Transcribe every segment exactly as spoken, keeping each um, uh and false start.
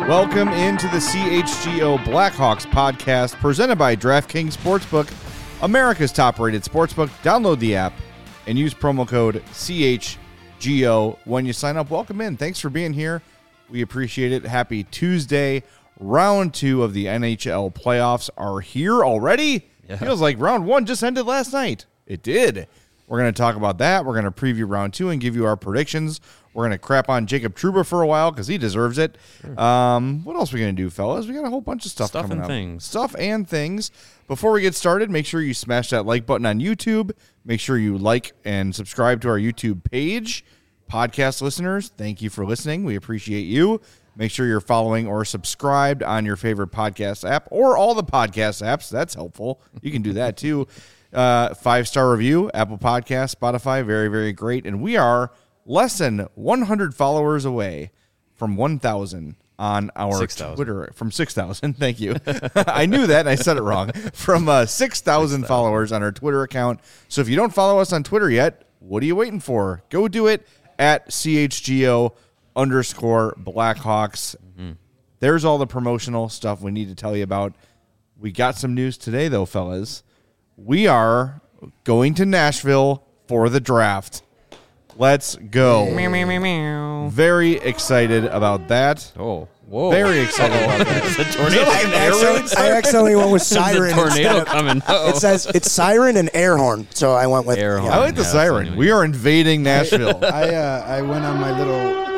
Welcome into the C H G O Blackhawks podcast presented by DraftKings Sportsbook, America's top-rated sportsbook. Download the app and use promo code C H G O when you sign up. Welcome in. Thanks for being here. We appreciate it. Happy Tuesday. Round two of the N H L playoffs are here already. Yeah. Feels like round one just ended last night. It did. We're going to talk about that. We're going to preview round two and give you our predictions. We're going to crap on Jacob Trouba for a while because he deserves it. Sure. Um, what else are we going to do, fellas? We got a whole bunch of stuff, stuff coming and up. Things. Stuff and things. Before we get started, make sure you smash that like button on YouTube. Make sure you like and subscribe to our YouTube page. Podcast listeners, thank you for listening. We appreciate you. Make sure you're following or subscribed on your favorite podcast app or all the podcast apps. That's helpful. You can do that too. Uh, five-star review, Apple Podcasts, Spotify, very, very great. And we are less than one hundred followers away from one thousand on our six thousand. Twitter. From six thousand, thank you. I knew that and I said it wrong. From uh, six thousand followers on our Twitter account. So if you don't follow us on Twitter yet, what are you waiting for? Go do it at C H G O underscore Blackhawks. Mm-hmm. There's all the promotional stuff we need to tell you about. We got some news today, though, fellas. We are going to Nashville for the draft. Let's go. Meow, meow, meow, meow. Very excited about that. Oh, whoa. Very excited about that. It's a tornado. I, accidentally, I accidentally went with siren. There's a tornado of, coming. Uh-oh. It says it's siren and air horn, so I went with Air yeah. horn. I like the Yeah, siren. We are invading Nashville. I uh, I went on my little.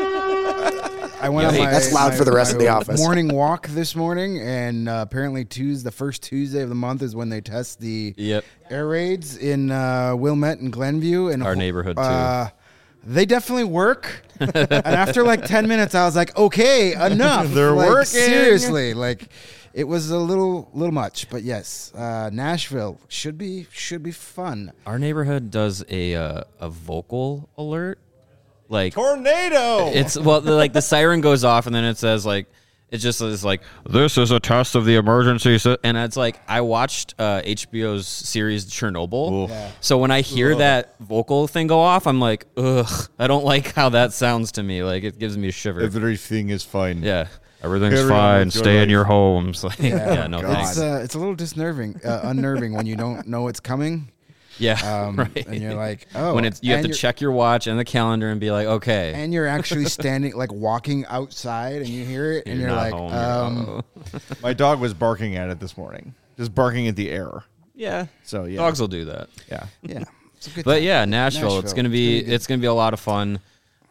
I went Yeah, on hey, my. that's loud my- for the rest my of the office. Morning walk this morning, and uh, apparently Tuesday, the first Tuesday of the month, is when they test the Yep. air raids in uh, Wilmette and Glenview, and Our neighborhood, too. Uh, they definitely work. And after like ten minutes, I was like, okay, enough. They're like, working. Seriously, like. It was a little, little much, but yes, uh, Nashville should be should be fun. Our neighborhood does a uh, a vocal alert. Like Tornado. it's well, the, like the siren goes off and then it says like it just is like this is a test of the emergency, si-. And it's like I watched uh, H B O's series Chernobyl, Yeah. so when I hear Ugh. that vocal thing go off, I'm like, ugh, I don't like how that sounds to me. Like it gives me a shiver. Everything is fine. Yeah, everything's Carry on fine. with your Stay in life. your homes. Like, yeah, no God. thanks. It's uh, it's a little disnerving, uh, unnerving when you don't know it's coming. Yeah, Um, right. And you're like, oh. when it's you have and to you're- check your watch and the calendar and be like, okay, And you're actually standing, like walking outside, and you hear it, and you're you're, not like, home, um, you're- My dog was barking at it this morning. Just barking at the air. yeah. So, yeah. Dogs will do that. Yeah. yeah. It's a good But time. yeah, Nashville, It's Nashville. gonna be It's gonna be good. it's gonna be a lot of fun.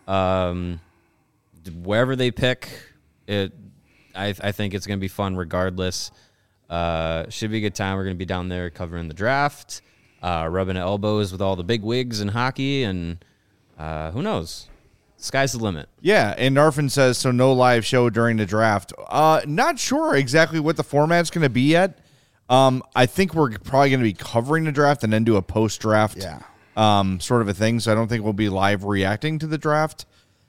Um, wherever they pick, it, I I think it's gonna be fun regardless. Uh, should be a good time. We're gonna be down there covering the draft, uh, rubbing elbows with all the big wigs in hockey, and uh, who knows? Sky's the limit. Yeah, and Narfin says, so no live show during the draft. Uh, not sure exactly what the format's going to be yet. Um, I think we're probably going to be covering the draft and then do a post-draft Yeah. um, sort of a thing, so I don't think we'll be live reacting to the draft.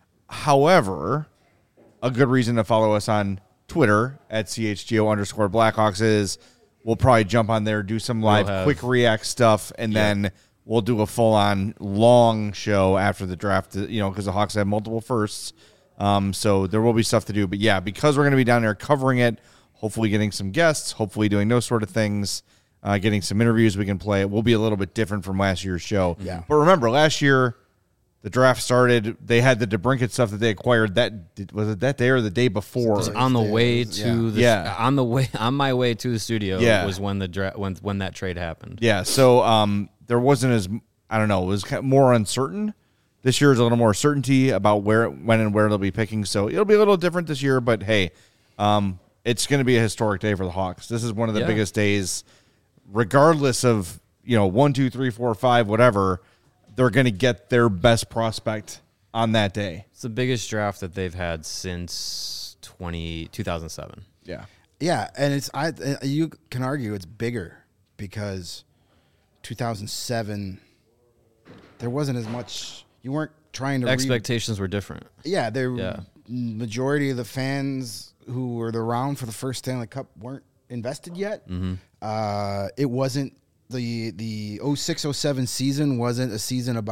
However, a good reason to follow us on Twitter at C H G O underscore Blackhawks is we'll probably jump on there, do some live have- quick react stuff, and then we'll do a full-on long show after the draft, you know, because the Hawks have multiple firsts. Um, so there will be stuff to do. But, yeah, because we're going to be down there covering it, hopefully getting some guests, hopefully doing those sort of things, uh, getting some interviews we can play. It will be a little bit different from last year's show. Yeah. But remember, last year the draft started. They had the DeBrincat stuff that they acquired. That did- was it that day or the day before? Just on the Yeah, way it was- to yeah. the Yeah. on the way on my way to the studio Yeah. was when the dra- when when that trade happened. Yeah, so um, there wasn't as, I don't know, it was kind of more uncertain. This year is a little more certainty about where, when, and where they'll be picking. So it'll be a little different this year, but hey, um, it's going to be a historic day for the Hawks. This is one of the Yeah. biggest days, regardless of, you know, one, two, three, four, five, whatever. They're going to get their best prospect on that day. It's the biggest draft that they've had since twenty, two thousand seven. Yeah. Yeah, and it's I. uh, You can argue it's bigger because two thousand seven there wasn't as much. You weren't trying to re- Expectations were different. Yeah, the Yeah. majority of the fans who were around for the first Stanley Cup weren't invested yet. Mm-hmm. Uh, it wasn't the the oh six oh seven season wasn't a season about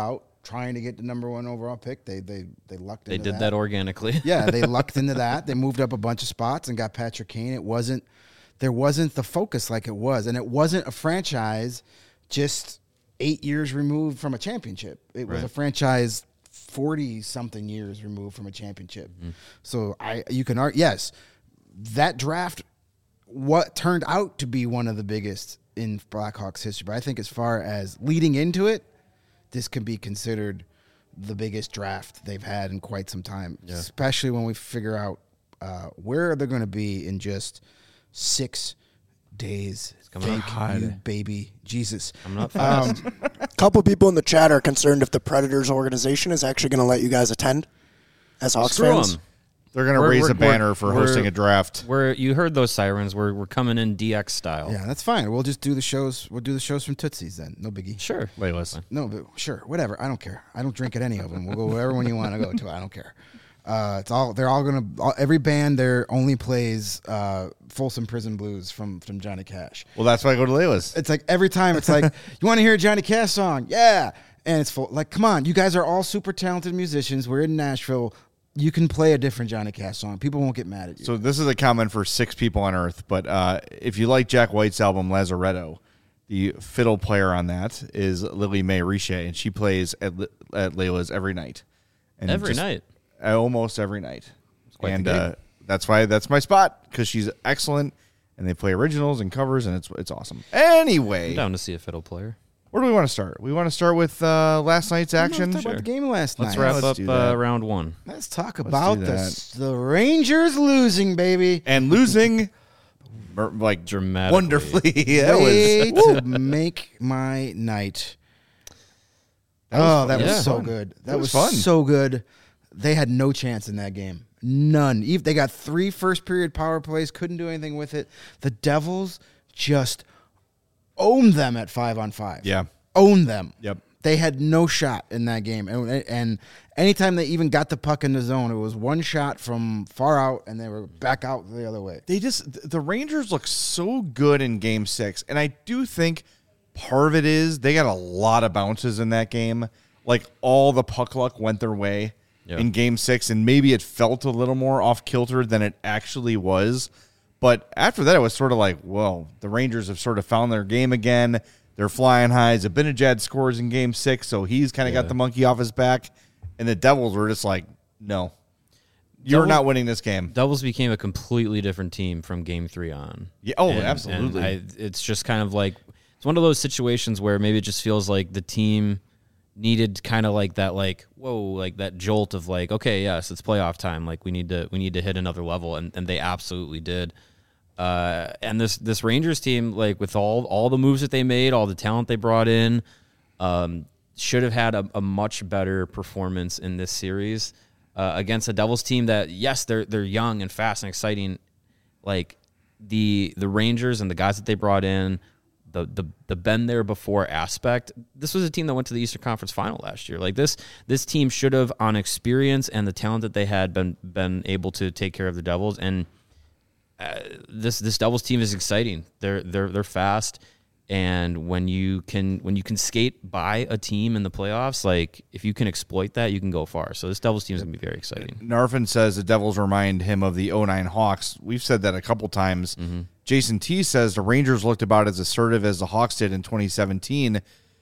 trying to get the number one overall pick. They they they lucked. They into did that. that organically. Yeah, they lucked into that. They moved up a bunch of spots and got Patrick Kane. It wasn't there wasn't the focus like it was, and it wasn't a franchise just eight years removed from a championship. It was Right. a franchise forty something years removed from a championship. Mm. So I you can argue yes, that draft what turned out to be one of the biggest in Blackhawks history. But I think as far as leading into it, this can be considered the biggest draft they've had in quite some time, Yeah. especially when we figure out uh, where they're going to be in just six days. coming Thank you, baby Jesus. Coming up fast. Um, A couple people in the chat are concerned if the Predators organization is actually going to let you guys attend as Hawks Screw fans. 'em. They're going to We're- raise we're- a banner we're- for we're- hosting a draft. We're you heard those sirens. We're we're coming in D X style. yeah, that's fine. We'll just do the shows. We'll do the shows from Tootsie's then. No biggie. Sure. Layla's. No, but sure, whatever. I don't care. I don't drink at any of them. We'll go wherever one you want to go to. I don't care. Uh, it's all. They're all gonna. All, every band there only plays uh, Folsom Prison Blues from from Johnny Cash. Well, that's why I go to Layla's. It's like every time. It's like you want to hear a Johnny Cash song, yeah, and it's full. Like, come on, you guys are all super talented musicians. We're in Nashville. You can play a different Johnny Cash song. People won't get mad at you. So this is a comment for six people on Earth, but uh, if you like Jack White's album Lazaretto, the fiddle player on that is Lily Mae Riche, and she plays at, Li- at Layla's every night. And Every just- night. uh, almost every night. quite the And gig. uh, that's why that's my spot, because she's excellent, and they play originals and covers, and it's it's awesome. Anyway, I'm down to see a fiddle player. where do we want to start? We want to start with uh, last night's action. Let's talk about the game last Let's night. wrap let's up do that. uh, round one. Let's talk about do the that. the Rangers losing, baby. And losing, mer- like Dramatically. wonderfly. that Way was to make my night. Oh, that was Yeah. so fun. good. That It was, was fun. so good. They had no chance in that game. None. Even they got three first period power plays, couldn't do anything with it. The Devils just owned them at five on five. Yeah. Owned them. Yep. They had no shot in that game. And, and anytime they even got the puck in the zone, it was one shot from far out, and they were back out the other way. They just the Rangers look so good in Game Six, and I do think part of it is they got a lot of bounces in that game. Like all the puck luck went their way Yeah. in Game Six, and maybe it felt a little more off kilter than it actually was. But after that, it was sort of like, well, the Rangers have sort of found their game again. They're flying high. Zabinajad scores in Game Six, so he's kind of Yeah. got the monkey off his back. And the Devils were just like, no, you're Devils- not winning this game. Devils became a completely different team from game three on. Yeah, oh, And- absolutely. and I, it's just kind of like it's one of those situations where maybe it just feels like the team needed kind of like that, like whoa, like that jolt of like, okay, yes, it's playoff time. Like we need to we need to hit another level, and, and they absolutely did. Uh, and this this Rangers team, like with all all the moves that they made, all the talent they brought in, um, should have had a, a much better performance in this series uh, against a Devils team that, yes, they're they're young and fast and exciting. Like the the Rangers and the guys that they brought in, the the the been there before aspect. This was a team that went to the Eastern Conference Final last year. Like this this team should have, on experience and the talent that they had, been been able to take care of the Devils. And uh, this this Devils team is exciting. They're they're they're fast. And when you can when you can skate by a team in the playoffs, like if you can exploit that, you can go far. So this Devils team is gonna be very exciting. Narfin says the Devils remind him of the oh nine Hawks. We've said that a couple times. Mm-hmm. Jason T says the Rangers looked about as assertive as the Hawks did in twenty seventeen.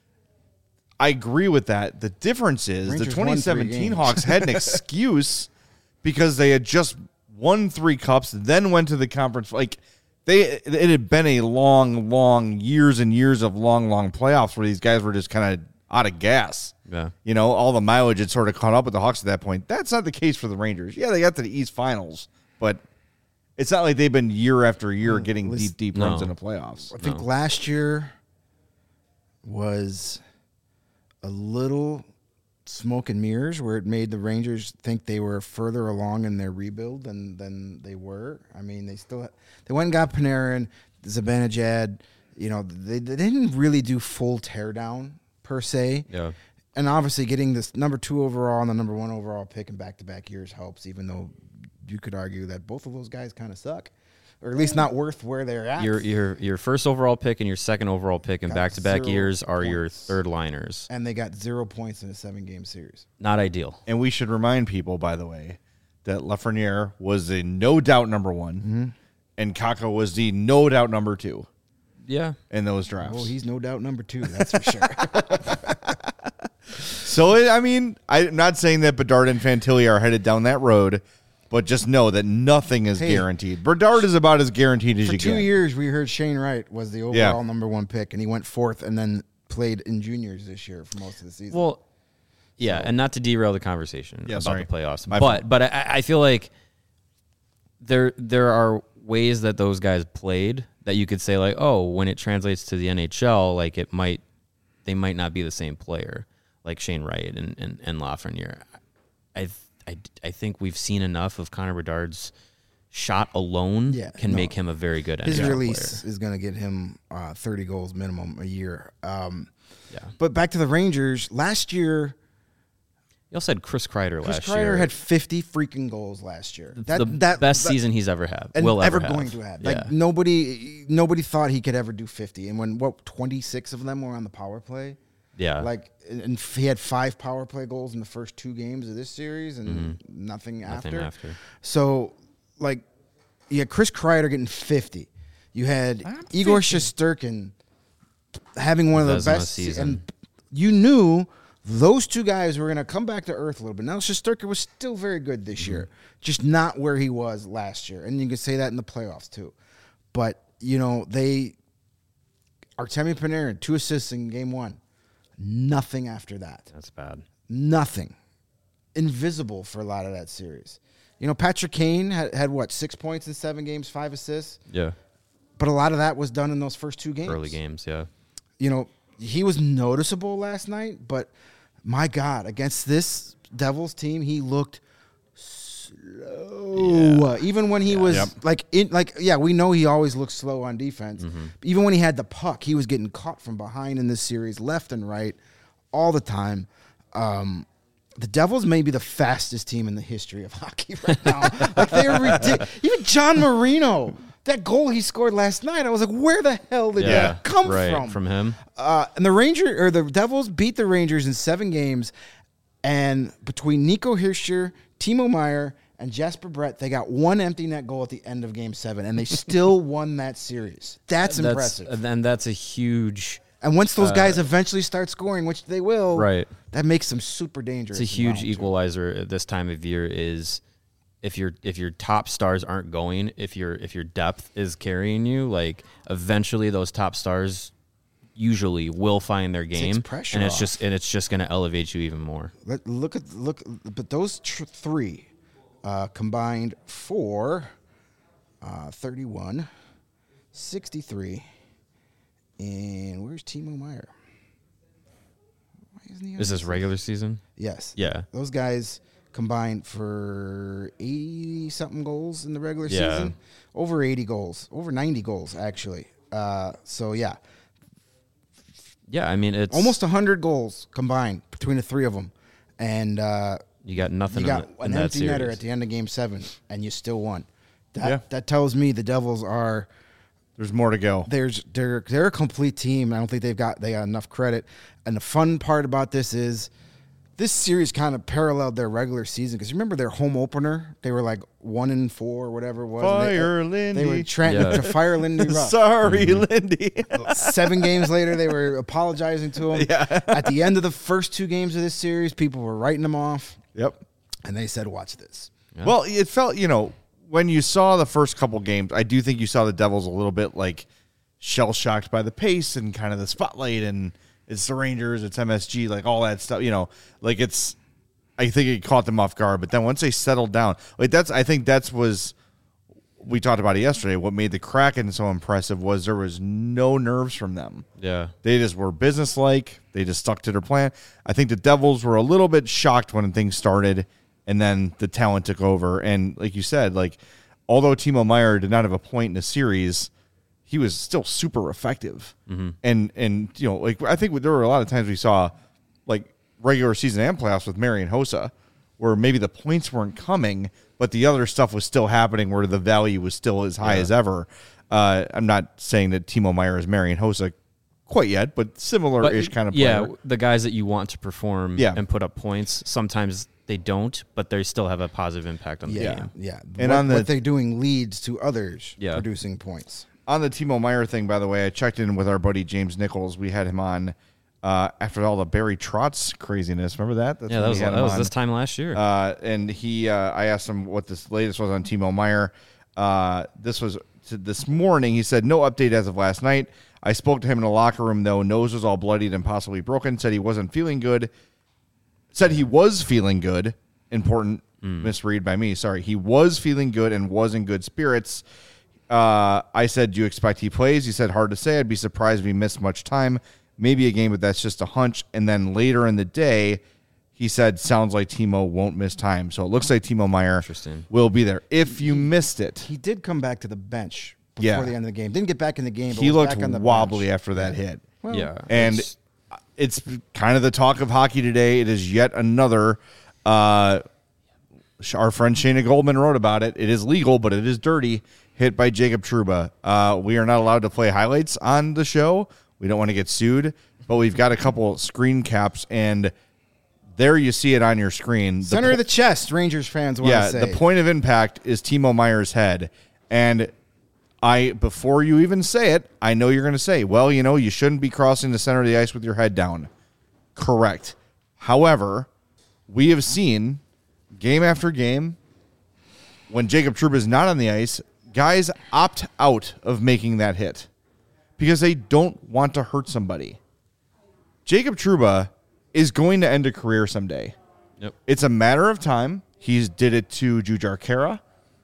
I agree with that. The difference is Rangers the twenty won three seventeen games. Hawks had an excuse because they had just won three cups, then went to the conference. Like they, it had been a long, long years and years of long, long playoffs where these guys were just kind of out of gas. Yeah. You know, all the mileage had sort of caught up with the Hawks at that point. That's not the case for the Rangers. Yeah, they got to the East Finals, but it's not like they've been year after year getting listen- deep, deep No. runs in the playoffs. I think No. last year was a little smoke and mirrors where it made the Rangers think they were further along in their rebuild than than they were. I mean, they still they went and got Panarin, Zibanejad. You know, they, they didn't really do full teardown per se. Yeah. And obviously, getting this number two overall and the number one overall pick in back to back years helps. Even though you could argue that both of those guys kind of suck, or at least not worth where they're at. Your your your first overall pick and your second overall pick in Got back-to-back zero years are points. your third liners. and they got zero points in a seven-game series. Not ideal. And we should remind people, by the way, that Lafreniere was a no doubt number one, Mm-hmm. and Kakko was the no doubt number two Yeah. in those drafts. Oh, he's no doubt number two. That's for sure. So, it, I mean, I'm not saying that Bedard and Fantilli are headed down that road, but just know that nothing is Hey. guaranteed. Bedard is about as guaranteed as For you two get. years, we heard Shane Wright was the overall Yeah. number one pick, and he went fourth, and then played in juniors this year for most of the season. Well, yeah, and not to derail the conversation Yeah, about sorry. the playoffs, My but fault. but I, I feel like there there are ways that those guys played that you could say like, oh, when it translates to the N H L, like it might they might not be the same player, like Shane Wright and and, and Lafreniere. I I I think we've seen enough of Connor Bedard's shot alone Yeah, can no. make him a very good his N H L release player. is going to get him uh, thirty goals minimum a year. Um, Yeah. but back to the Rangers. Last year, You also had Chris Kreider Chris last Kreider year. had fifty freaking goals last year. That, the that, best that- season he's ever had. and will ever ever, going have. to have. Yeah. Like nobody, nobody thought he could ever do fifty. And when what twenty-six of them were on the power play, yeah. like and and he had five power play goals in the first two games of this series, and Mm-hmm. nothing, Nothing after. after. So, like, you had Chris Kreider getting fifty. You had Igor Shesterkin having one of the Vezina best season. and you knew those two guys were going to come back to earth a little bit. Now, Shesterkin was still very good this Mm-hmm. year, just not where he was last year. And you can say that in the playoffs, too. But, you know, they Artemi Panarin, two assists in game one. Nothing after that. That's bad. Nothing. Invisible for a lot of that series. You know, Patrick Kane had, had what, six points in seven games, five assists? Yeah. But a lot of that was done in those first two games. Early games, yeah. You know, he was noticeable last night, but my God, against this Devils team, he looked slow. Even when he was Yep. like in like yeah, we know he always looks slow on defense. Mm-hmm. Even when he had the puck, he was getting caught from behind in this series, left and right, all the time. Um, the Devils may be the fastest team in the history of hockey right now. Like they're ridiculous. Even John Marino, that goal he scored last night, I was like, where the hell did Yeah. that come right. from? From him. Uh, and the Ranger or the Devils beat the Rangers in seven games, and between Nico Hischier, Timo Meyer, and Jasper Brett, they got one empty net goal at the end of Game Seven, and they still won that series. That's, impressive. That's, and that's a huge, And once those guys eventually start scoring, which they will, right. that makes them super dangerous. It's a in huge round two. equalizer at this time of year is if your if your top stars aren't going, if your if your depth is carrying you, like eventually those top stars usually will find their game, pressure and it's off. just and it's just going to elevate you even more. Let, look at look, but those tr- three uh, combined for uh, thirty-one, sixty-three, and where's Timo Meyer? Why isn't he on Is this regular season? Yes. Yeah. Those guys combined for eighty something goals in the regular Yeah. season. Over eighty goals, over ninety goals actually. Uh, so yeah, Yeah, I mean it's almost one hundred goals combined between the three of them, and. Uh, you got nothing. You got in, the, in an that empty series. netter at the end of Game Seven, and you still won. That Yeah. that tells me the Devils are There's more to go. there's they're they're a complete team. I don't think they've got they got enough credit. And the fun part about this is this series kind of paralleled their regular season because remember their home opener, they were like one and four or whatever it was. and they- Fire They Lindy. were trying Yeah. to fire Lindy Ruff. Sorry, Lindy. Seven games later, they were apologizing to him. At the end of the first two games of this series, people were writing them off, Yep. and they said, "Watch this." Yeah. Well, it felt, you know, when you saw the first couple games, I do think you saw the Devils a little bit like shell shocked by the pace and kind of the spotlight, and it's the Rangers, it's M S G, like all that stuff, you know, like it's, I think it caught them off guard. But then once they settled down, like that's, I think that's was, we talked about it yesterday. What made the Kraken so impressive was there was no nerves from them. Yeah. They just were businesslike. They just stuck to their plan. I think the Devils were a little bit shocked when things started, and then the talent took over. And like you said, like although Timo Meyer did not have a point in the series, he was still super effective. Mm-hmm. And and you know, like I think there were a lot of times we saw like regular season and playoffs with Marian Hossa, where maybe the points weren't coming, but the other stuff was still happening where the value was still as high Yeah. as ever. Uh, I'm not saying that Timo Meier is Marian Hossa quite yet, but similar-ish kind of player. Yeah, the guys that you want to perform Yeah. and put up points, sometimes they don't, but they still have a positive impact on the Yeah, game. yeah. And what, on the- what they're doing leads to others Yeah. producing points. On the Timo Meier thing, by the way, I checked in with our buddy James Nichols. We had him on uh, after all the Barry Trotz craziness. Remember that? That's Yeah, when that we was had that him was on. this time last year. Uh, and he, uh, I asked him what this latest was on Timo Meier. Uh, this was t- this morning. He said no update as of last night. I spoke to him in the locker room though. Nose was all bloodied and possibly broken. Said he wasn't feeling good. Said he was feeling good. Important misread by me. Sorry. He was feeling good and was in good spirits. Uh, I said, do you expect he plays? He said, hard to say. I'd be surprised if he missed much time. Maybe a game, but that's just a hunch. And then later in the day, he said, sounds like Timo won't miss time. So it looks like Timo Meier Interesting. will be there. If you missed it, He did come back to the bench before Yeah. the end of the game. Didn't get back in the game, but he was looked back on the wobbly bench. after that hit. yeah, And it's- it's kind of the talk of hockey today. It is yet another. Uh, our friend Shayna Goldman wrote about it. It is legal, but it is dirty. Hit by Jacob Trouba. Uh, we are not allowed to play highlights on the show. We don't want to get sued, but we've got a couple screen caps, and there you see it on your screen. The Center po- of the chest, Rangers fans want yeah, to say. the point of impact is Timo Meier's head. And I, before you even say it, I know you're going to say, well, you know, you shouldn't be crossing the center of the ice with your head down. Correct. However, we have seen game after game when Jacob Trouba is not on the ice, guys opt out of making that hit because they don't want to hurt somebody. Jacob Trouba is going to end a career someday. Yep. It's a matter of time. He's did it to Jujhar Khaira.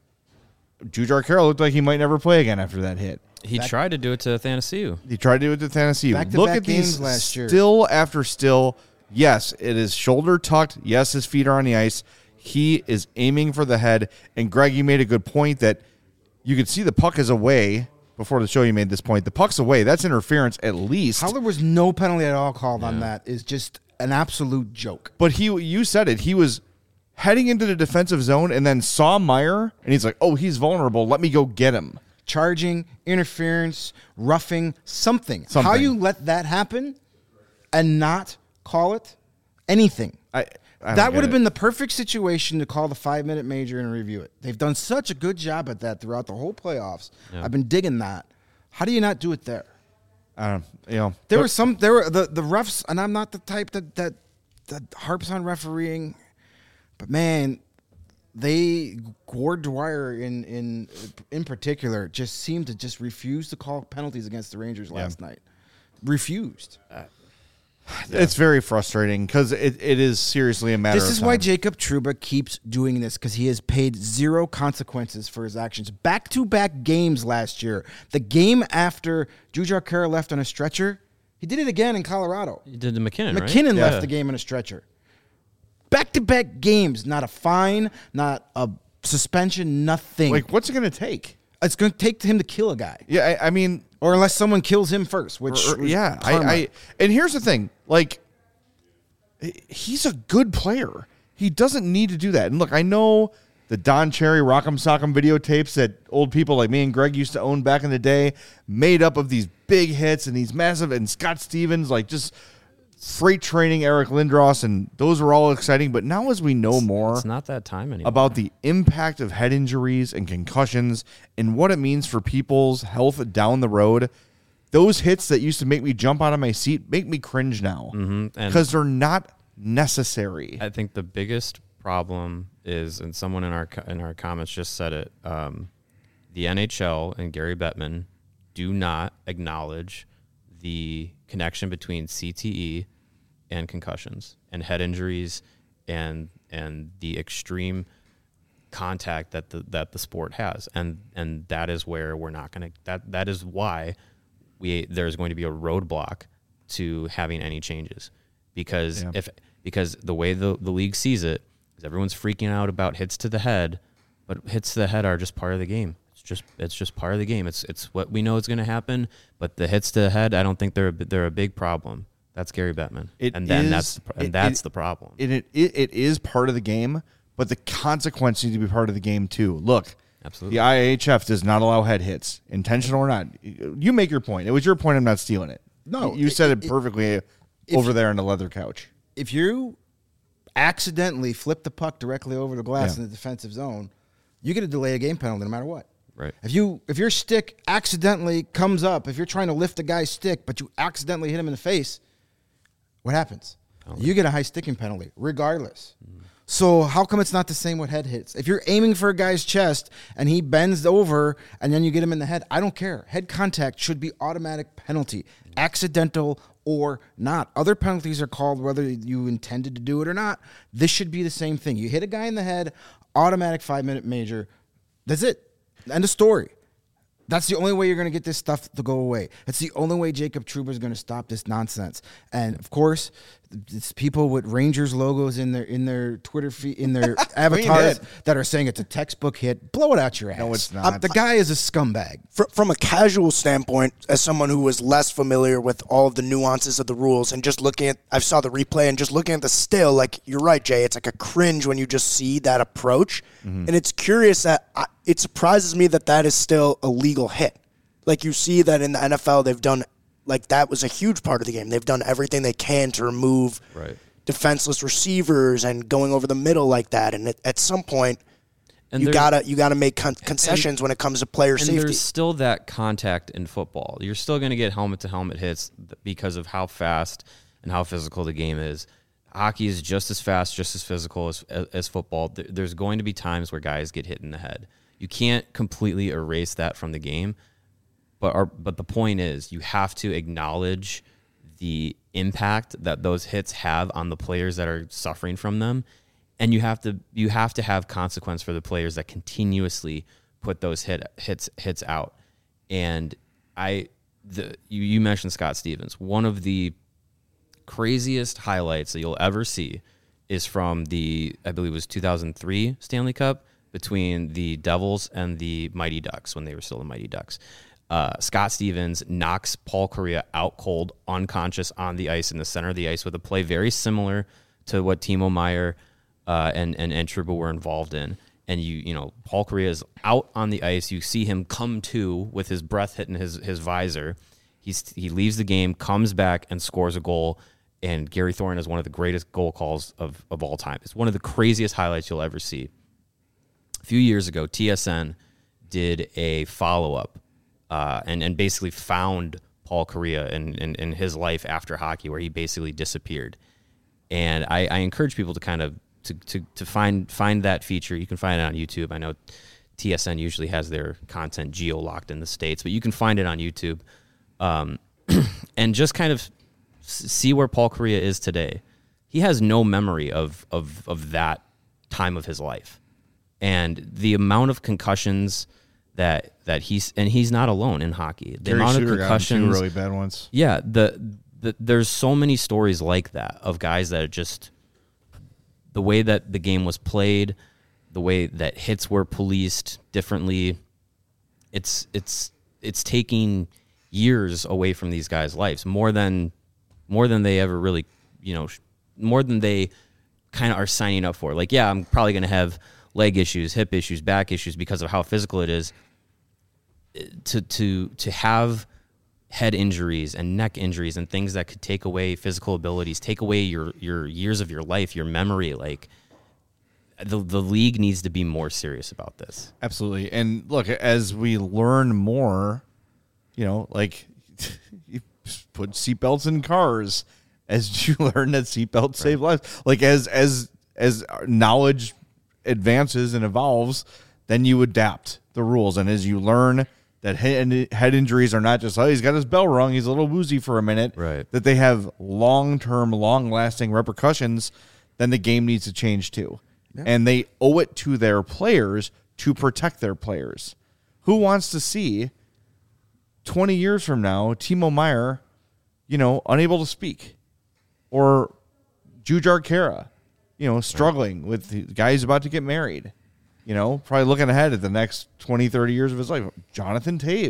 Jujhar Khaira looked like he might never play again after that hit. He tried to do it to Athanasiou. He tried to do it to Tennessee. Back-to-back Look at games these last year. still after still. Yes, it is shoulder tucked. Yes, his feet are on the ice. He is aiming for the head. And Greg, you made a good point that you could see the puck is away. Before the show, you made this point. The puck's away. That's interference at least. How there was no penalty at all called on that is just an absolute joke. But he, you said it. He was heading into the defensive zone and then saw Meier, and he's like, "Oh, he's vulnerable. Let me go get him." Charging, interference, roughing, something. How Something. you let that happen and not call it anything? I, I don't That get would have it. been the perfect situation to call the five-minute major and review it. They've done such a good job at that throughout the whole playoffs. Yeah. I've been digging that. How do you not do it there? I don't, you know, There but- were some. There were the the refs, and I'm not the type that that that harps on refereeing, but man, they Gord Dwyer in in in particular just seemed to just refuse to call penalties against the Rangers last night. Refused. It's very frustrating because it, it is seriously a matter This of is time. why Jacob Trouba keeps doing this, because he has paid zero consequences for his actions. Back-to-back games last year. The game after Jujhar Khaira left on a stretcher, he did it again in Colorado. He did the McKinnon, right? McKinnon Yeah. left the game on a stretcher. Back-to-back games, not a fine, not a suspension, nothing. Like, what's it going to take? It's going to take him to kill a guy, Yeah, I, I mean, or unless someone kills him first. Which, or- or- yeah, I, karma. I. And here's the thing: like, he- he's a good player. He doesn't need to do that. And look, I know the Don Cherry Rock'em Sock'em videotapes that old people like me and Greg used to own back in the day, made up of these big hits and these massive, and Scott Stevens, like just freight training Eric Lindros, and those were all exciting. But now, as we know more, It's not that time anymore. about the impact of head injuries and concussions and what it means for people's health down the road. Those hits that used to make me jump out of my seat make me cringe now and- because they're not necessary. I think the biggest problem is, and someone in our co- in our comments just said it, um, the N H L and Gary Bettman do not acknowledge the connection between C T E and concussions and head injuries and and the extreme contact that the that the sport has, and and that is where we're not going to that that is why we there's going to be a roadblock to having any changes, because Yeah. if because the way the, the league sees it is everyone's freaking out about hits to the head, but hits to the head are just part of the game. It's just it's just part of the game. It's it's what we know is going to happen, but the hits to the head, I don't think they're a, they're a big problem. That's Gary Bettman. It and then is- that's the, and it- that's it- the problem. It, it, it, it is part of the game, but the consequence needs to be part of the game too. Look, Absolutely. the I H F does not allow head hits, intentional or not. You make your point. It was your point. I'm not stealing it. No, you said it- it perfectly if- over there on the leather couch. If you accidentally flip the puck directly over the glass Yeah. in the defensive zone, you get a delay a game penalty no matter what. Right. If you if your stick accidentally comes up, if you're trying to lift a guy's stick but you accidentally hit him in the face, what happens? You get a high sticking penalty, regardless. Mm. So how come it's not the same with head hits? If you're aiming for a guy's chest and he bends over and then you get him in the head, I don't care. Head contact should be automatic penalty, mm. accidental or not. Other penalties are called whether you intended to do it or not. This should be the same thing. You hit a guy in the head, automatic five-minute major. That's it. End of story. That's the only way you're going to get this stuff to go away. That's the only way Jacob Trouba is going to stop this nonsense. And of course, it's people with Rangers logos in their in their Twitter feed, in their avatars it. that are saying it's a textbook hit. Blow it out your ass. No, it's not. Uh, the guy is a scumbag. Fr- From a casual standpoint, as someone who was less familiar with all of the nuances of the rules and just looking at, I saw the replay and just looking at the still, like, you're right, Jay, it's like a cringe when you just see that approach. Mm-hmm. And it's curious that I, it surprises me that that is still a legal hit. Like, you see that in the N F L, they've done, like, that was a huge part of the game. They've done everything they can to remove Right. defenseless receivers and going over the middle like that. And at, at some point, And you there- gotta you gotta make con- concessions and- when it comes to player And safety. there's still that contact in football. You're still going to get helmet-to-helmet hits because of how fast and how physical the game is. Hockey is just as fast, just as physical as, as, as football. There- There's going to be times where guys get hit in the head. You can't completely erase that from the game, but our, but the point is you have to acknowledge the impact that those hits have on the players that are suffering from them. And you have to you have to have consequence for the players that continuously put those hit hits hits out. And I the you, you mentioned Scott Stevens. One of the craziest highlights that you'll ever see is from the I believe it was two thousand three Stanley Cup between the Devils and the Mighty Ducks when they were still the Mighty Ducks. Uh, Scott Stevens knocks Paul Kariya out cold, unconscious on the ice in the center of the ice with a play very similar to what Timo Meier Uh, and, and, and Trouba were involved in. And you you know, Paul Kariya is out on the ice. You see him come to with his breath hitting his, his visor. He's he leaves the game, comes back, and scores a goal. And Gary Thornton is one of the greatest goal calls of, of all time. It's one of the craziest highlights you'll ever see. A few years ago, T S N did a follow-up uh, and, and basically found Paul Kariya in, in, in his life after hockey, where he basically disappeared. And I, I encourage people to kind of To, to, to find find that feature. You can find it on YouTube. I know T S N usually has their content geo-locked in the States, but you can find it on YouTube. Um, and just kind of s- see where Paul Kariya is today. He has no memory of, of, of that time of his life. And the amount of concussions that that he's, and he's not alone in hockey. The Gary amount Shooter of got him concussions. two really bad ones. Yeah, the, the there's so many stories like that of guys that are just the way that the game was played, the way that hits were policed differently. It's it's it's taking years away from these guys' lives, more than more than they ever really, you know, more than they kind of are signing up for. Like, yeah, I'm probably going to have leg issues, hip issues, back issues because of how physical it is. To to to have head injuries and neck injuries and things that could take away physical abilities, take away your, your years of your life, your memory. Like the the league needs to be more serious about this. Absolutely. And look, as we learn more, you know, like you put seatbelts in cars, as you learn that seatbelts save lives. Like as as as knowledge advances and evolves, then you adapt the rules. And as you learn that head, head injuries are not just, oh, he's got his bell rung, he's a little woozy for a minute. Right. That they have long-term, long-lasting repercussions, then the game needs to change too. Yeah. And they owe it to their players to protect their players. Who wants to see twenty years from now Timo Meier, you know, unable to speak? Or Jujhar Khaira, you know, struggling with the guy who's about to get married? You know, probably looking ahead at the next twenty, thirty years of his life. Jonathan Taves,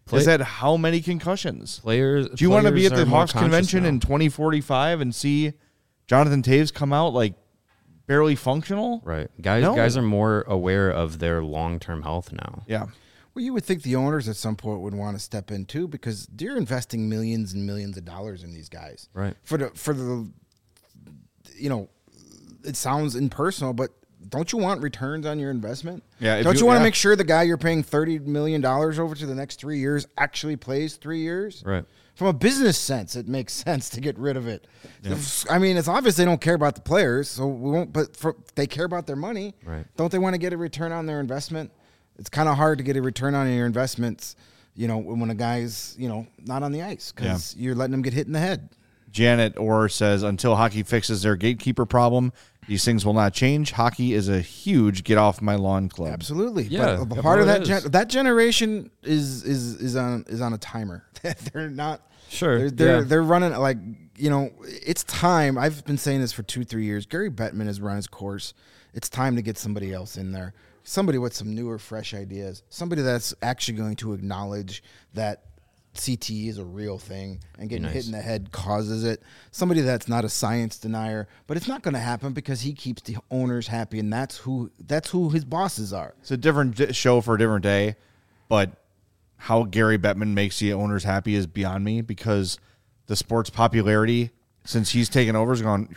Play- has had how many concussions? Players. Do you want to be players at the are more Hawks conscious convention now. in twenty forty-five and see Jonathan Taves come out like barely functional? Right. Guys No. guys are more aware of their long-term health now. Yeah. Well, you would think the owners at some point would want to step in too, because they're investing millions and millions of dollars in these guys. Right. For the for the, you know, it sounds impersonal, but don't you want returns on your investment? Yeah, if Don't you- you, want to yeah. make sure the guy you're paying thirty million dollars over to the next three years actually plays three years? Right. From a business sense, it makes sense to get rid of it. I mean, it's obvious they don't care about the players, so we won't. But for, they care about their money. Right. Don't they want to get a return on their investment? It's kind of hard to get a return on your investments, you know, when a guy's, you know, not on the ice because you're letting him get hit in the head. Janet Orr says, until hockey fixes their gatekeeper problem, these things will not change. Hockey is a huge get off my lawn club. Absolutely. Yeah, But a yeah, part of it that is. gen- that generation is is is on is on a timer. They're not Sure, They're they're, yeah. they're running like, you know, it's time. I've been saying this for two, three years. Gary Bettman has run his course. It's time to get somebody else in there. Somebody with some newer, fresh ideas. Somebody that's actually going to acknowledge that C T E is a real thing and getting Nice. hit in the head causes it. Somebody that's not a science denier, but it's not going to happen because he keeps the owners happy, and that's who that's who his bosses are. It's a different di- show for a different day, but how Gary Bettman makes the owners happy is beyond me, because the sport's popularity since he's taken over has gone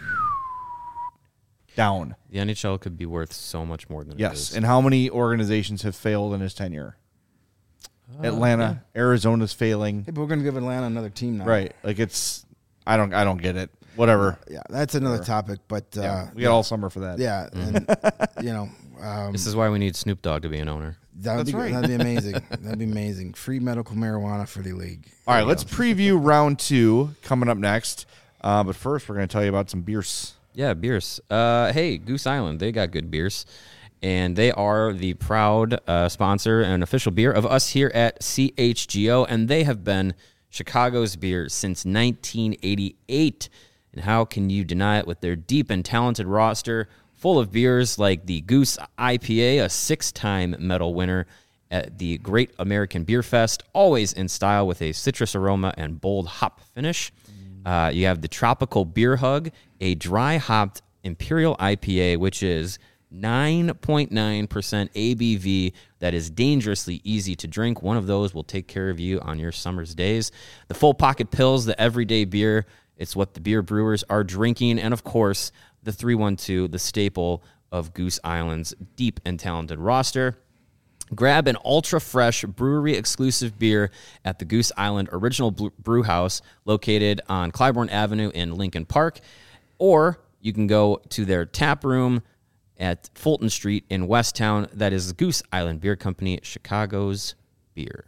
down. The N H L could be worth so much more than it Yes. is. And how many organizations have failed in his tenure? Atlanta, Arizona's failing. Hey, but we're going to give Atlanta another team now. Right. Like it's I don't I don't get it. Whatever. Yeah, that's another topic, but uh, Yeah. yeah, We got all summer for that. yeah and you know, um, This is why we need Snoop Dogg to be an owner. that would That's be right. that'd be amazing. That'd be amazing. Free medical marijuana for the league. All right, let's preview round two coming up next. Uh, but first, we're going to tell you about some beers. Yeah, beers. Uh, hey, Goose Island, they got good beers. And they are the proud uh, sponsor and official beer of us here at C H G O. And they have been Chicago's beer since nineteen eighty-eight. And how can you deny it with their deep and talented roster full of beers like the Goose I P A, a six-time medal winner at the Great American Beer Fest, always in style with a citrus aroma and bold hop finish. Uh, you have the Tropical Beer Hug, a dry-hopped Imperial I P A, which is nine point nine percent A B V that is dangerously easy to drink. One of those will take care of you on your summer's days. The Full Pocket Pills, the everyday beer. It's what the beer brewers are drinking. And, of course, the three one two, the staple of Goose Island's deep and talented roster. Grab an ultra-fresh brewery-exclusive beer at the Goose Island Original Brew House located on Clybourne Avenue in Lincoln Park. Or you can go to their tap room at Fulton Street in Westtown. That is the Goose Island Beer Company, Chicago's beer.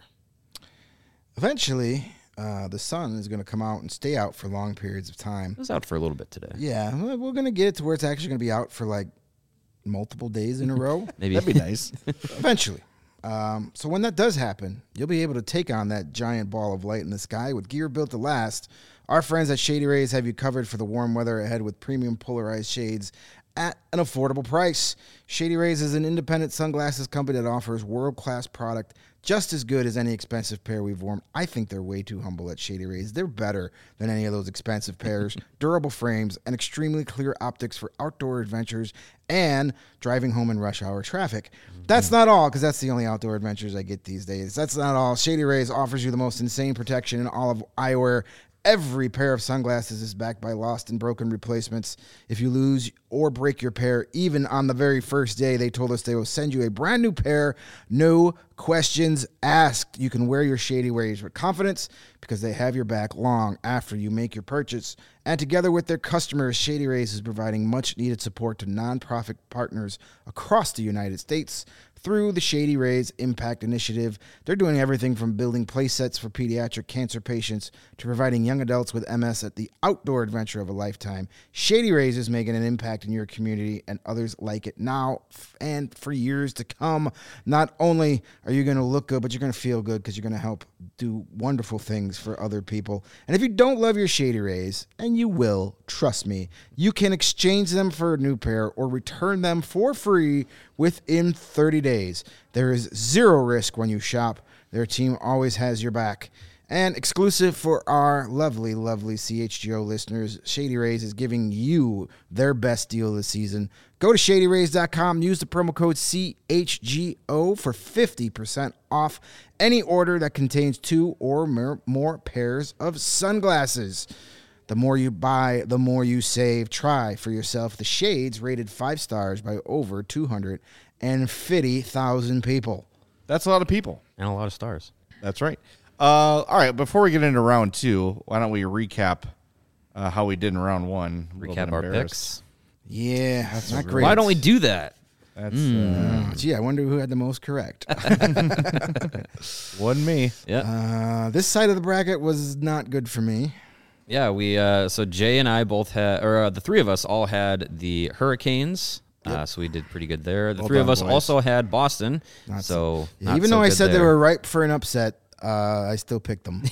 Eventually, uh, the sun is going to come out and stay out for long periods of time. It was out for a little bit today. Yeah, we're going to get it to where it's actually going to be out for like multiple days in a row. Maybe That'd be nice. Eventually. Um, so when that does happen, you'll be able to take on that giant ball of light in the sky with gear built to last. Our friends at Shady Rays have you covered for the warm weather ahead with premium polarized shades at an affordable price. Shady Rays is an independent sunglasses company that offers world-class product just as good as any expensive pair we've worn. I think they're way too humble at Shady Rays. They're better than any of those expensive pairs. Durable frames and extremely clear optics for outdoor adventures and driving home in rush hour traffic. That's not all, because that's the only outdoor adventures I get these days. That's not all. Shady Rays offers you the most insane protection in all of eyewear. Every pair of sunglasses is backed by lost and broken replacements. If you lose or break your pair, even on the very first day, they told us they will send you a brand new pair, no questions asked. You can wear your Shady Rays with confidence because they have your back long after you make your purchase. And together with their customers, Shady Rays is providing much-needed support to nonprofit partners across the United States. Through the Shady Rays Impact Initiative, they're doing everything from building play sets for pediatric cancer patients to providing young adults with M S at the outdoor adventure of a lifetime. Shady Rays is making an impact in your community and others like it now and for years to come. Not only are you going to look good, but you're going to feel good because you're going to help do wonderful things for other people. And if you don't love your Shady Rays, and you will, trust me, you can exchange them for a new pair or return them for free within thirty days. There is zero risk when you shop. Their team always has your back. And exclusive for our lovely, lovely C H G O listeners, Shady Rays is giving you their best deal of the season. Go to shady rays dot com, use the promo code C H G O for fifty percent off any order that contains two or more, more pairs of sunglasses. The more you buy, the more you save. Try for yourself the shades rated five stars by over two hundred fifty thousand people. That's a lot of people. And a lot of stars. That's right. Uh, all right, before we get into round two, why don't we recap uh, how we did in round one? A little Recap bit our embarrassed. picks. Yeah, that's not great. Why don't we do that? That's Uh, gee, I wonder who had the most correct. uh, wasn't me. Yeah. uh, this side of the bracket was not good for me. Yeah, we uh, so Jay and I both had, or uh, the three of us all had the Hurricanes. Uh, so we did pretty good there. The Well three done, of us boys. also had Boston. Not so Yeah, not even so though I good said they there. were ripe for an upset, uh, I still picked them.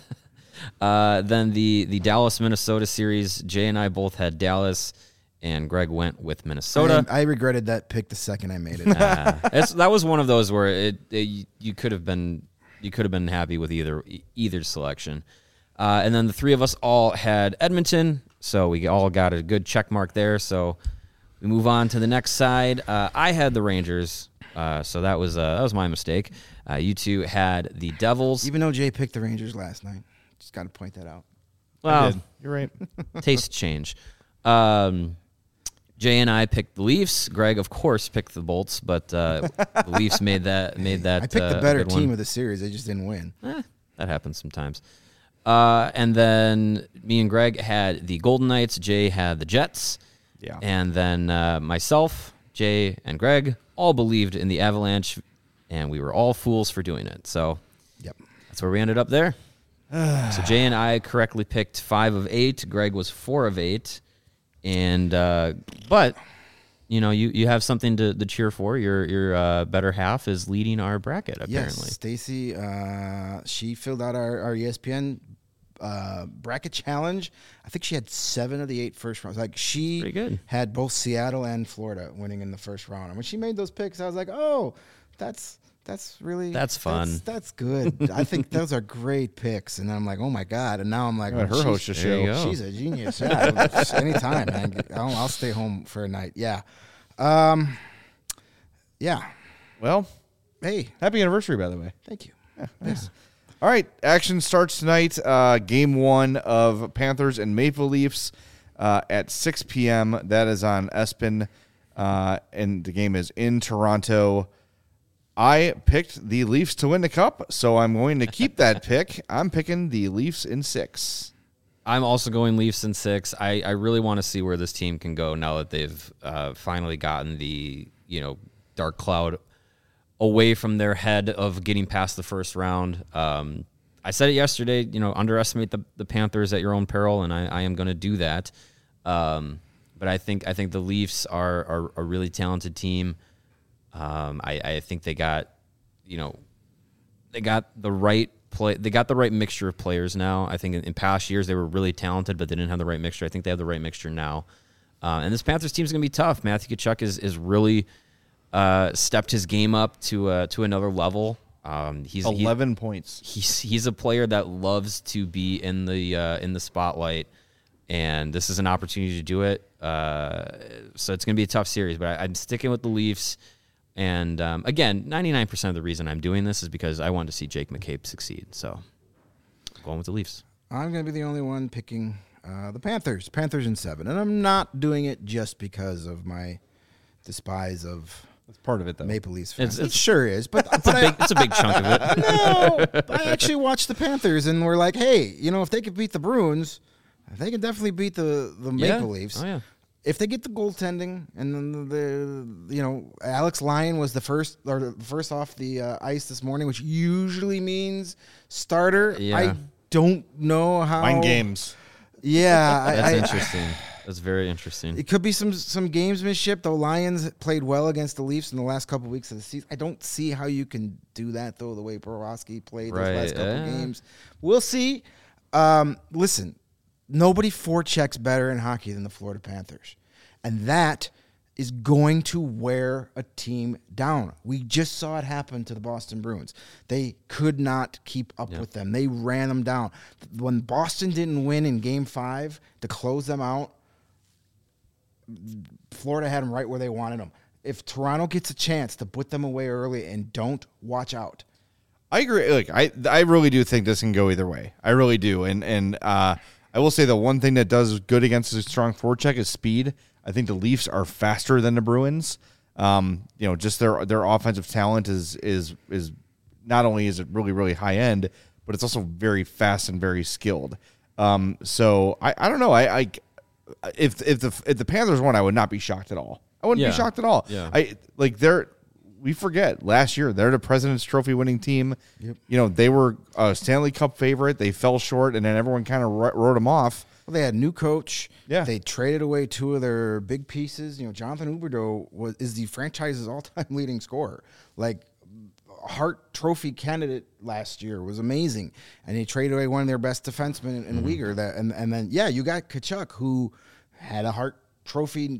Uh, then the the Dallas Minnesota series, Jay and I both had Dallas, and Greg went with Minnesota. I, I regretted that pick the second I made it. Uh, it's, that was one of those where it, it you could have been you could have been happy with either either selection. Uh, and then the three of us all had Edmonton, so we all got a good check mark there. So we move on to the next side. Uh, I had the Rangers, uh, so that was uh, that was my mistake. Uh, you two had the Devils. Even though Jay picked the Rangers last night. Just got to point that out. I Well, did. You're right. taste change. Um, Jay and I picked the Leafs. Greg, of course, picked the Bolts, but uh, the Leafs made that made that. I picked uh, the a better good team one. of the series. They just didn't win. Eh, that happens sometimes. Uh, and then me and Greg had the Golden Knights. Jay had the Jets. Yeah. And then uh, myself, Jay, and Greg all believed in the Avalanche, and we were all fools for doing it. So Yep. that's where we ended up there. So Jay and I correctly picked five of eight. Greg was four of eight. And uh, but you know, you, you have something to, to cheer for. Your your uh, better half is leading our bracket, apparently. Yes, Stacy, uh, she filled out our, our E S P N uh, bracket challenge. I think she had seven of the eight first rounds. Like she Pretty good. had both Seattle and Florida winning in the first round. And when she made those picks, I was like, oh, that's that's really That's fun. That's, that's good. I think those are great picks. And I'm like, oh my god. And now I'm like, Let oh, her she's- host the there you show. go. She's a genius. Yeah, just anytime, man. I'll, I'll stay home for a night. Yeah. Um. Yeah. Well, Hey, happy anniversary, by the way. thank you. Yes. All right, action starts tonight. Uh, game one of Panthers and Maple Leafs uh, at six p.m. That is on ESPN, uh, and the game is in Toronto. I picked the Leafs to win the cup, so I'm going to keep that pick. I'm picking the Leafs in six. I'm also going Leafs in six. I, I really want to see where this team can go now that they've uh, finally gotten the, you know, dark cloud away from their head of getting past the first round. Um, I said it yesterday, you know, underestimate the, the Panthers at your own peril, and I, I am going to do that. Um, but I think I think the Leafs are, are a really talented team. Um, I, I think they got, you know, they got the right play. They got the right mixture of players now. I think in, in past years they were really talented, but they didn't have the right mixture. I think they have the right mixture now. Uh, and this Panthers team is going to be tough. Matthew Tkachuk is is really uh, stepped his game up to uh, to another level. Um, he's he- Eleven points. he's he's a player that loves to be in the uh, in the spotlight, and this is an opportunity to do it. Uh, so it's going to be a tough series, but I, I'm sticking with the Leafs. And um, again, ninety-nine percent of the reason I'm doing this is because I want to see Jake McCabe succeed. So going with the Leafs. I'm going to be the only one picking uh, the Panthers. Panthers in seven. And I'm not doing it just because of my despise of That's part of it, though. Maple Leafs fans. It's- it sure is. But, It's a but big, it's a big chunk of it. I, no, I actually watched the Panthers and we're like, hey, you know, if they could beat the Bruins, they can definitely beat the, the Yeah. Maple Leafs. Oh yeah. If they get the goaltending, and then the, the you know Alex Lyon was the first or the first off the uh, ice this morning, which usually means starter. Yeah. I don't know how. Mind games. Yeah, I- That's I- interesting. That's very interesting. It could be some some gamesmanship. The Lions played well against the Leafs in the last couple weeks of the season. I don't see how you can do that though. The way Borowski played those Right, last couple yeah. games, we'll see. Um, listen, nobody forechecks better in hockey than the Florida Panthers, and that is going to wear a team down. We just saw it happen to the Boston Bruins. They could not keep up Yeah. with them. They ran them down. When Boston didn't win in game five to close them out, Florida had them right where they wanted them. If Toronto gets a chance to put them away early and don't, watch out. I agree. Like I, I really do think this can go either way. I really do. And and uh, I will say the one thing that does good against a strong forecheck is speed. I think the Leafs are faster than the Bruins. Um, you know, just their their offensive talent is is is not only is it really really high end, but it's also very fast and very skilled. Um, so I, I don't know. I, I if if the if the Panthers won, I would not be shocked at all. I wouldn't Yeah. be shocked at all. Yeah. I like they're. We forget last year they're the President's Trophy winning team. Yep. You know, they were a Stanley Cup favorite. They fell short, and then everyone kind of wrote them off. Well, they had a new coach. Yeah. They traded away two of their big pieces. You know, Jonathan Huberdeau was is the franchise's all-time leading scorer. Like, Hart Trophy candidate last year was amazing, and they traded away one of their best defensemen in Mm-hmm. Uyghur. That and and then yeah, you got Kachuk, who had a Hart Trophy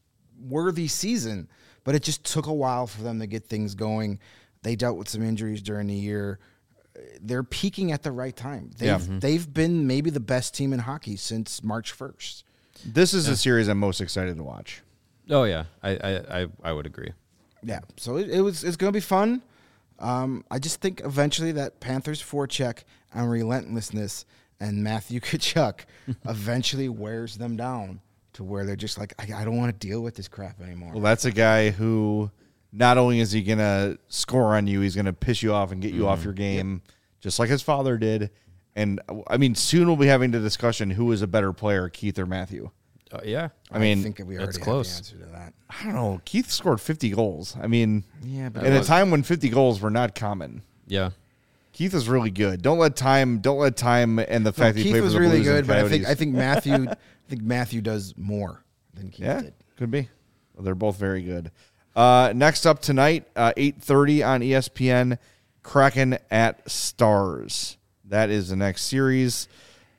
worthy season, but it just took a while for them to get things going. They dealt with some injuries during the year. They're peaking at the right time. They've, Yeah. they've been maybe the best team in hockey since March first. This is the series I'm most excited to watch. Oh yeah, I I, I, I would agree. Yeah, so it, it was it's going to be fun. Um, I just think eventually that Panthers forecheck and relentlessness and Matthew Tkachuk eventually wears them down to where they're just like, I, I don't want to deal with this crap anymore. Well, that's a guy who not only is he going to score on you, he's going to piss you off and get you off your game, just like his father did. And, I mean, soon we'll be having the discussion who is a better player, Keith or Matthew. Uh, yeah, I mean, I think we already it's have close. the answer to that. I don't know. Keith scored fifty goals. I mean, Yeah, but in a was- time when fifty goals were not common. yeah. Keith is really good. Don't let time. Don't let time and the No, fact that he Keith played was for the really Blues and good, but I think Coyotes- I think Matthew I think Matthew does more than Keith Yeah, did. could be. Well, they're both very good. Uh, next up tonight, uh, eight thirty on E S P N, Kraken at Stars. That is the next series.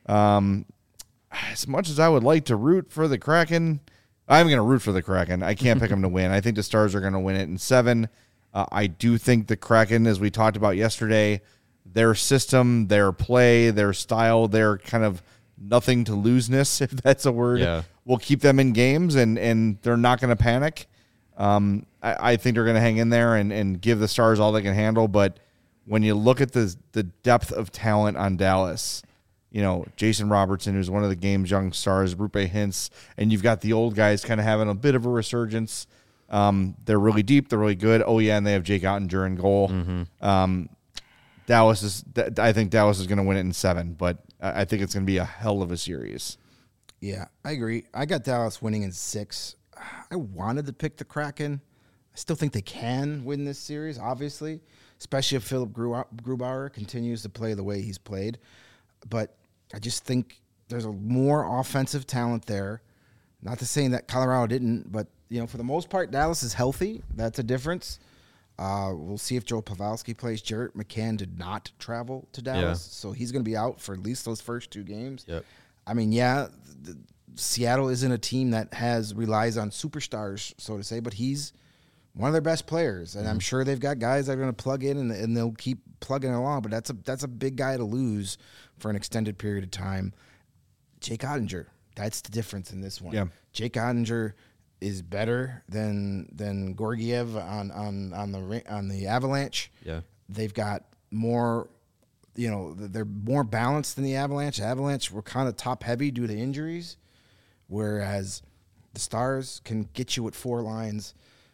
Um, as much as I would like to root for the Kraken, I'm going to root for the Kraken. I can't pick them to win. I think the Stars are going to win it in seven. Uh, I do think the Kraken, as we talked about yesterday, their system, their play, their style, their kind of nothing to loseness, if that's a word, Yeah. will keep them in games, and, and they're not going to panic. Um, I, I think they're going to hang in there and, and give the Stars all they can handle. But when you look at the the depth of talent on Dallas, you know, Jason Robertson, who's one of the game's young stars, Rupe Hintz, and you've got the old guys kind of having a bit of a resurgence. Um, they're really deep. They're really good. Oh, yeah, and they have Jake Ottinger in goal. Um, Dallas is. I think Dallas is going to win it in seven, but I I think it's going to be a hell of a series. Yeah, I agree. I got Dallas winning in six. I wanted to pick the Kraken. I still think they can win this series, obviously, especially if Philip Gru- Grubauer continues to play the way he's played. But I just think there's a more offensive talent there. Not to say that Colorado didn't, but you know, for the most part, Dallas is healthy. That's a difference. Uh, we'll see if Joe Pavelski plays. Jarrett McCann did not travel to Dallas, Yeah. so he's going to be out for at least those first two games. Yep. I mean, yeah, the, Seattle isn't a team that has relies on superstars, so to say, but he's one of their best players, and I'm sure they've got guys that are going to plug in and, and they'll keep plugging along. But that's a that's a big guy to lose for an extended period of time. Jake Ottinger, that's the difference in this one. Yeah. Jake Ottinger is better than than Gorgiev on on on the Ra- on the Avalanche. Yeah. They've got more. You know, they're more balanced than the Avalanche. The Avalanche were kind of top heavy due to injuries, whereas the Stars can get you at four lines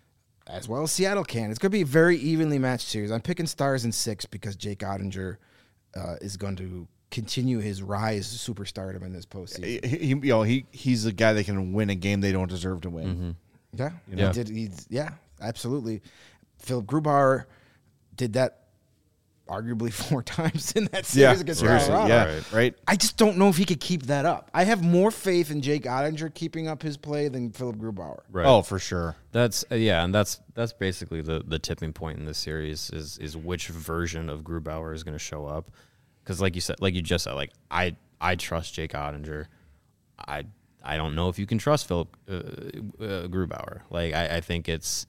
as well as Seattle can. It's going to be a very evenly matched series. I'm picking Stars in six because Jake Ottinger uh, is going to continue his rise to superstardom in this postseason. He, he- you know, he he's a guy that can win a game they don't deserve to win. Yeah, know? He did, he's, yeah, absolutely. Philip Grubauer did that arguably four times in that series against seriously, Colorado. yeah, Right. right. I just don't know if he could keep that up. I have more faith in Jake Ottinger keeping up his play than Philip Grubauer. Right. Oh, for sure. That's uh, yeah, and that's that's basically the the tipping point in this series is is which version of Grubauer is going to show up. Because like you said, like you just said, like I I trust Jake Ottinger. I I don't know if you can trust Philip uh, uh, Grubauer. Like, I, I think it's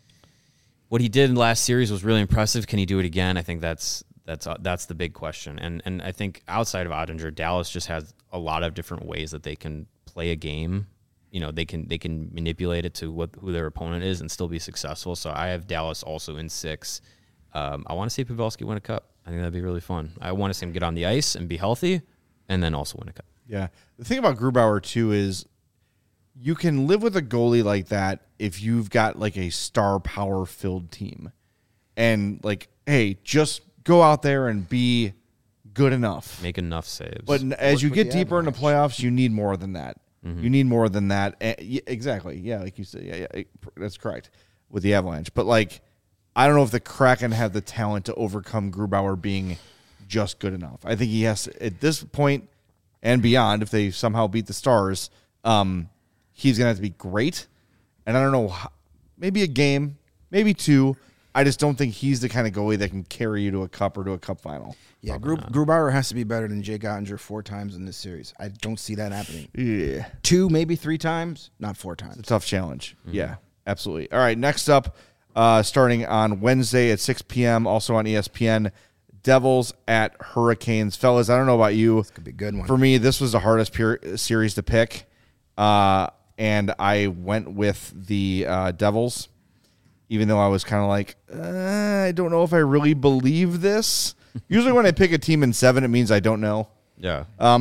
what he did in the last series was really impressive. Can he do it again? I think that's that's uh, that's the big question. And and I think outside of Ottinger, Dallas just has a lot of different ways that they can play a game. You know, they can they can manipulate it to what who their opponent is and still be successful. So I have Dallas also in six. Um, I want to see Pavelski win a cup. I think that'd be really fun. I want to see him get on the ice and be healthy, and then also win a cup. Yeah. The thing about Grubauer, too, is you can live with a goalie like that if you've got, like, a star power-filled team. And, like, hey, just go out there and be good enough. Make enough saves. But as Work you with get the deeper into Avalanche. playoffs, you need more than that. Mm-hmm. You need more than that. And, yeah, exactly. Yeah, like you said. Yeah, yeah, that's correct with the Avalanche. But, like, I don't know if the Kraken have the talent to overcome Grubauer being just good enough. I think he has to, at this point and beyond, if they somehow beat the Stars, um, he's going to have to be great. And I don't know, how, maybe a game, maybe two. I just don't think he's the kind of goalie that can carry you to a cup or to a cup final. Yeah, Grub, Grubauer has to be better than Jake Ottinger four times in this series. I don't see that happening. Yeah. Two, maybe three times, not four times. A tough challenge. Mm-hmm. Yeah, absolutely. All right, next up, uh, starting on Wednesday at six p.m., also on E S P N, Devils at Hurricanes. Fellas, I don't know about you. This could be a good one. For me, this was the hardest pure series to pick, uh, and I went with the uh, Devils, even though I was kind of like, uh, I don't know if I really believe this. Usually when I pick a team in seven, it means I don't know. Yeah. Um,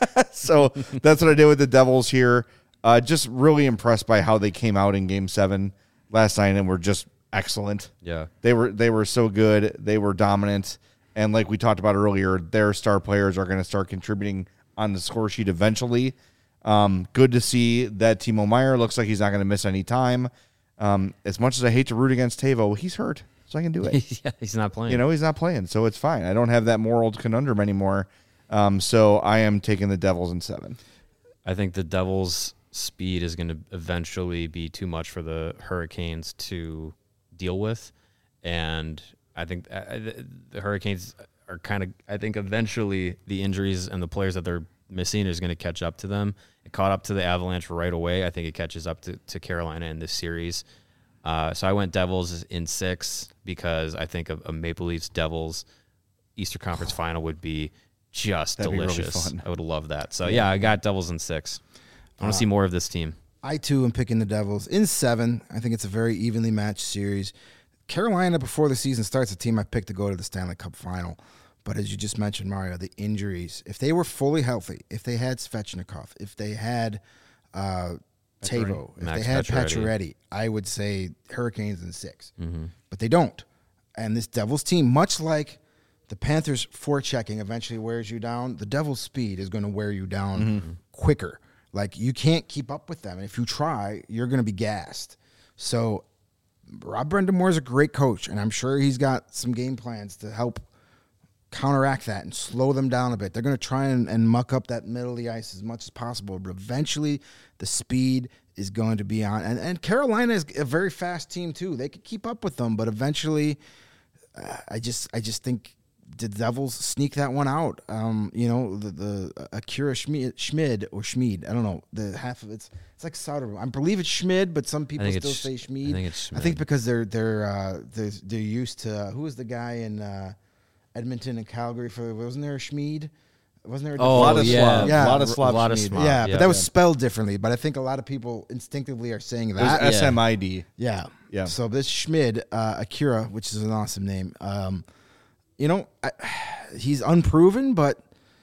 so that's what I did with the Devils here. Uh, just really impressed by how they came out in Game Seven last night and were just excellent. Yeah. They were they were so good. They were dominant. And like we talked about earlier, their star players are going to start contributing on the score sheet eventually. Um, good to see that Timo Meier looks like he's not going to miss any time. Um, as much as I hate to root against Tavo, he's hurt, so I can do it. Yeah, he's not playing. You know, he's not playing, so it's fine. I don't have that moral conundrum anymore. Um, so I am taking the Devils in seven. I think the Devils' speed is going to eventually be too much for the Hurricanes to deal with, and I think uh, the Hurricanes are kind of, I think eventually the injuries and the players that they're missing is going to catch up to them. It caught up to the Avalanche right away. I think it catches up to, to Carolina in this series. Uh, so I went Devils in six because I think a, a Maple Leafs Devils Eastern Conference final would be just That'd be really delicious. fun. I would love that. So yeah, I got Devils in six. I want to uh, see more of this team. I too am picking the Devils in seven. I think it's a very evenly matched series. Carolina, before the season starts, a team I picked to go to the Stanley Cup final. But as you just mentioned, Mario, the injuries, if they were fully healthy, if they had Svechnikov, if they had uh, Tavo, if Max they had Pacioretty. Pacioretty, I would say Hurricanes in six. Mm-hmm. But they don't. And this Devils team, much like the Panthers' forechecking eventually wears you down, the Devils' speed is going to wear you down mm-hmm. quicker. Like, you can't keep up with them. And if you try, you're going to be gassed. So Rob Brendamore is a great coach, and I'm sure he's got some game plans to help counteract that and slow them down a bit. They're going to try and, and muck up that middle of the ice as much as possible, but eventually the speed is going to be on. And, and Carolina is a very fast team too. They could keep up with them, but eventually uh, I just I just think the Devils sneak that one out. Um, you know, the, the Akira Schmid, Schmid or Schmid, I don't know, the half of it's it's like Soderbergh. I believe it's Schmid, but some people still say Schmid. I think it's Schmid. I think because they're they're uh, they're, they're used to uh, who was the guy in uh, Edmonton and Calgary for wasn't there a Schmid? Wasn't there a Oh, Vladislav. yeah. Yeah. Vladislav Vladislav. Schmid. yeah, yeah, but that was yeah. spelled differently. But I think a lot of people instinctively are saying It was that. S M I D. Yeah. Yeah. So this Schmid, uh, Akira, which is an awesome name, um, you know, I, he's unproven, but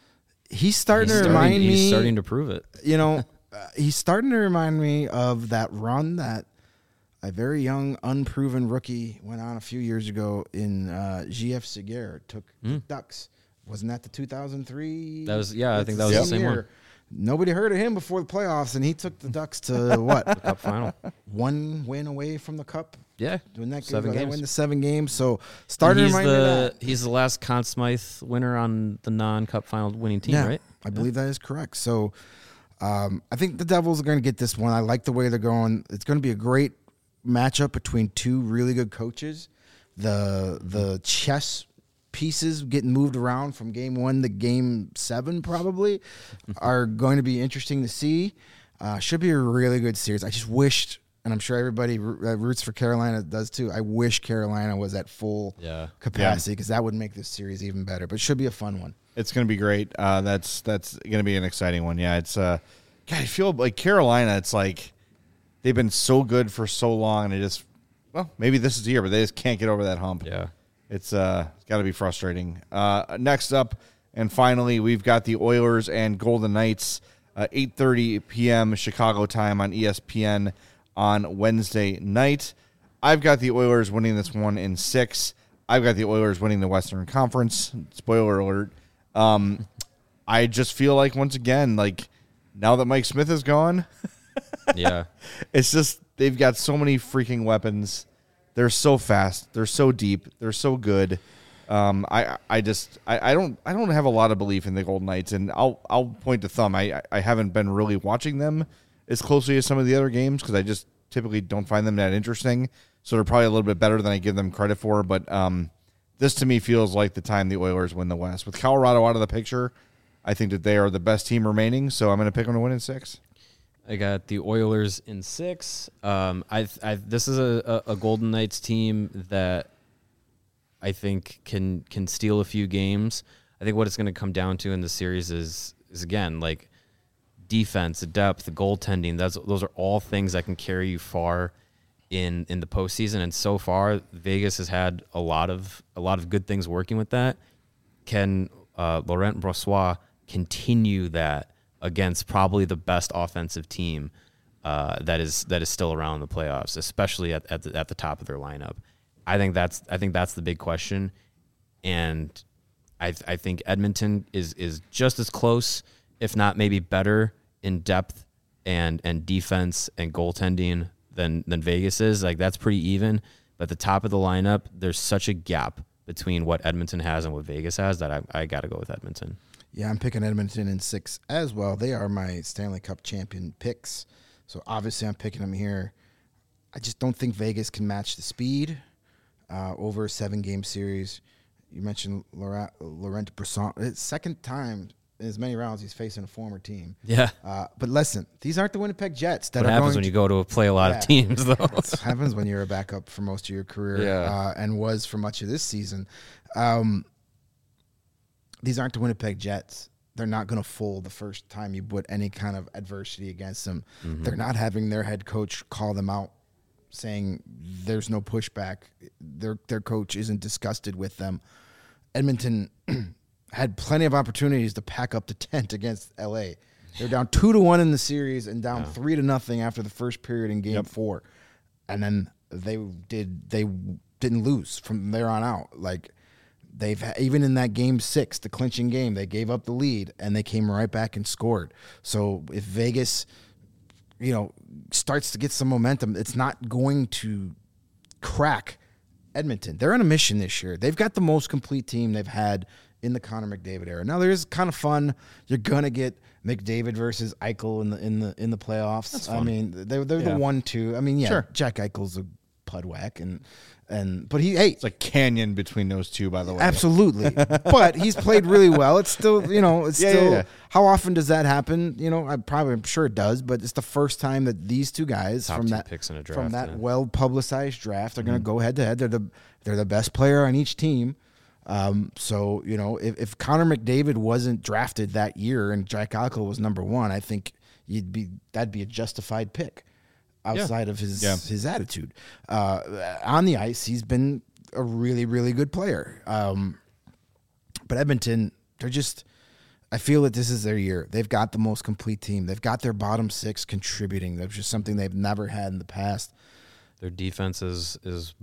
he's starting He's to starting, remind he's me. starting to prove it. You know, uh, he's starting to remind me of that run that a very young, unproven rookie went on a few years ago in uh, G F Seguer. Took Mm. Ducks. Wasn't that the two thousand three? That was- yeah, I That's think that was the same year. one. Nobody heard of him before the playoffs, and he took the Ducks to what? Cup final. One win away from the Cup. Yeah. Doing that Seven good, they games. win the seven games. So starting to he's remind me of the that. he's the last Conn Smythe winner on the non-cup final winning team, Yeah, right? I believe that is correct. So um, I think the Devils are going to get this one. I like the way they're going. It's going to be a great matchup between two really good coaches. The the chess pieces getting moved around from game one to game seven probably are going to be interesting to see. Uh, should be a really good series. I just wished, and I'm sure everybody uh, roots for Carolina does too. I wish Carolina was at full Yeah. capacity because that would make this series even better. But it should be a fun one. It's going to be great. Uh, that's that's going to be an exciting one. Yeah, it's. Uh, God, I feel like Carolina. It's like they've been so good for so long, and they just. Well, maybe this is the year, but they just can't get over that hump. Yeah. It's uh, it's got to be frustrating. Uh, next up, and finally, we've got the Oilers and Golden Knights, uh, eight thirty p.m. Chicago time on E S P N on Wednesday night. I've got the Oilers winning this one in six. I've got the Oilers winning the Western Conference. Spoiler alert. Um, I just feel like, once again, like now that Mike Smith is gone, Yeah. it's just they've got so many freaking weapons. They're so fast. They're so deep. They're so good. Um, I I just I, I don't I don't have a lot of belief in the Golden Knights, and I'll I'll point to thumb. I I haven't been really watching them as closely as some of the other games because I just typically don't find them that interesting. So they're probably a little bit better than I give them credit for. But um, this to me feels like the time the Oilers win the West. With Colorado out of the picture, I think that they are the best team remaining. So I'm going to pick them to win in six. I got the Oilers in six. Um, I, I this is a, a, a Golden Knights team that I think can can steal a few games. I think what it's going to come down to in the series is is again like defense, depth, goaltending. That's those are all things that can carry you far in in the postseason. And so far, Vegas has had a lot of a lot of good things working with that. Can uh, Laurent Brossoit continue that against probably the best offensive team uh, that is that is still around the playoffs, especially at at the, at the top of their lineup? I think that's I think that's the big question, and I I think Edmonton is is just as close, if not maybe better, in depth and and defense and goaltending than than Vegas is. Like that's pretty even. But at the top of the lineup, there's such a gap between what Edmonton has and what Vegas has that I I got to go with Edmonton. Yeah, I'm picking Edmonton in six as well. They are my Stanley Cup champion picks, so obviously I'm picking them here. I just don't think Vegas can match the speed uh, over a seven-game series. You mentioned Laurent, Laurent Brossoit. It's second time in as many rounds he's facing a former team. Yeah. Uh, but listen, these aren't the Winnipeg Jets. That What are happens going when to, you go to play a lot Yeah. of teams, though? What happens when you're a backup for most of your career Yeah. uh, and was for much of this season. Um, these aren't the Winnipeg Jets. They're not going to fold the first time you put any kind of adversity against them. Mm-hmm. They're not having their head coach call them out saying there's no pushback. Their their coach isn't disgusted with them. Edmonton had plenty of opportunities to pack up the tent against L A. They're down two to one in the series and down Yeah. three to nothing after the first period in Game Yep. Four, and then they did they didn't lose from there on out. Like they've even in that Game Six, the clinching game, they gave up the lead and they came right back and scored. So if Vegas, you know, starts to get some momentum, it's not going to crack Edmonton. They're on a mission this year. They've got the most complete team they've had in the Connor McDavid era. Now there's kind of fun. You're gonna get McDavid versus Eichel in the in the in the playoffs. I mean, they're they're Yeah. the one two. I mean, yeah, Sure. Jack Eichel's a pudwack and and but he hey It's a canyon between those two, by the way. absolutely. But he's played really well. It's still, you know, it's Yeah, still. yeah, yeah. How often does that happen? You know, I probably, I'm sure it does. But it's the first time that these two guys Top from two that picks in a from draft, that yeah. well publicized draft are going to go head to head. They're the they're the best player on each team. Um, so you know, if, if Connor McDavid wasn't drafted that year and Jack Eichel was number one, I think you'd be that'd be a justified pick. Outside of his Yeah. his attitude uh, on the ice, he's been a really really good player. Um, but Edmonton, they're just. I feel that this is their year. They've got the most complete team. They've got their bottom six contributing. That's just something they've never had in the past. Their defense is is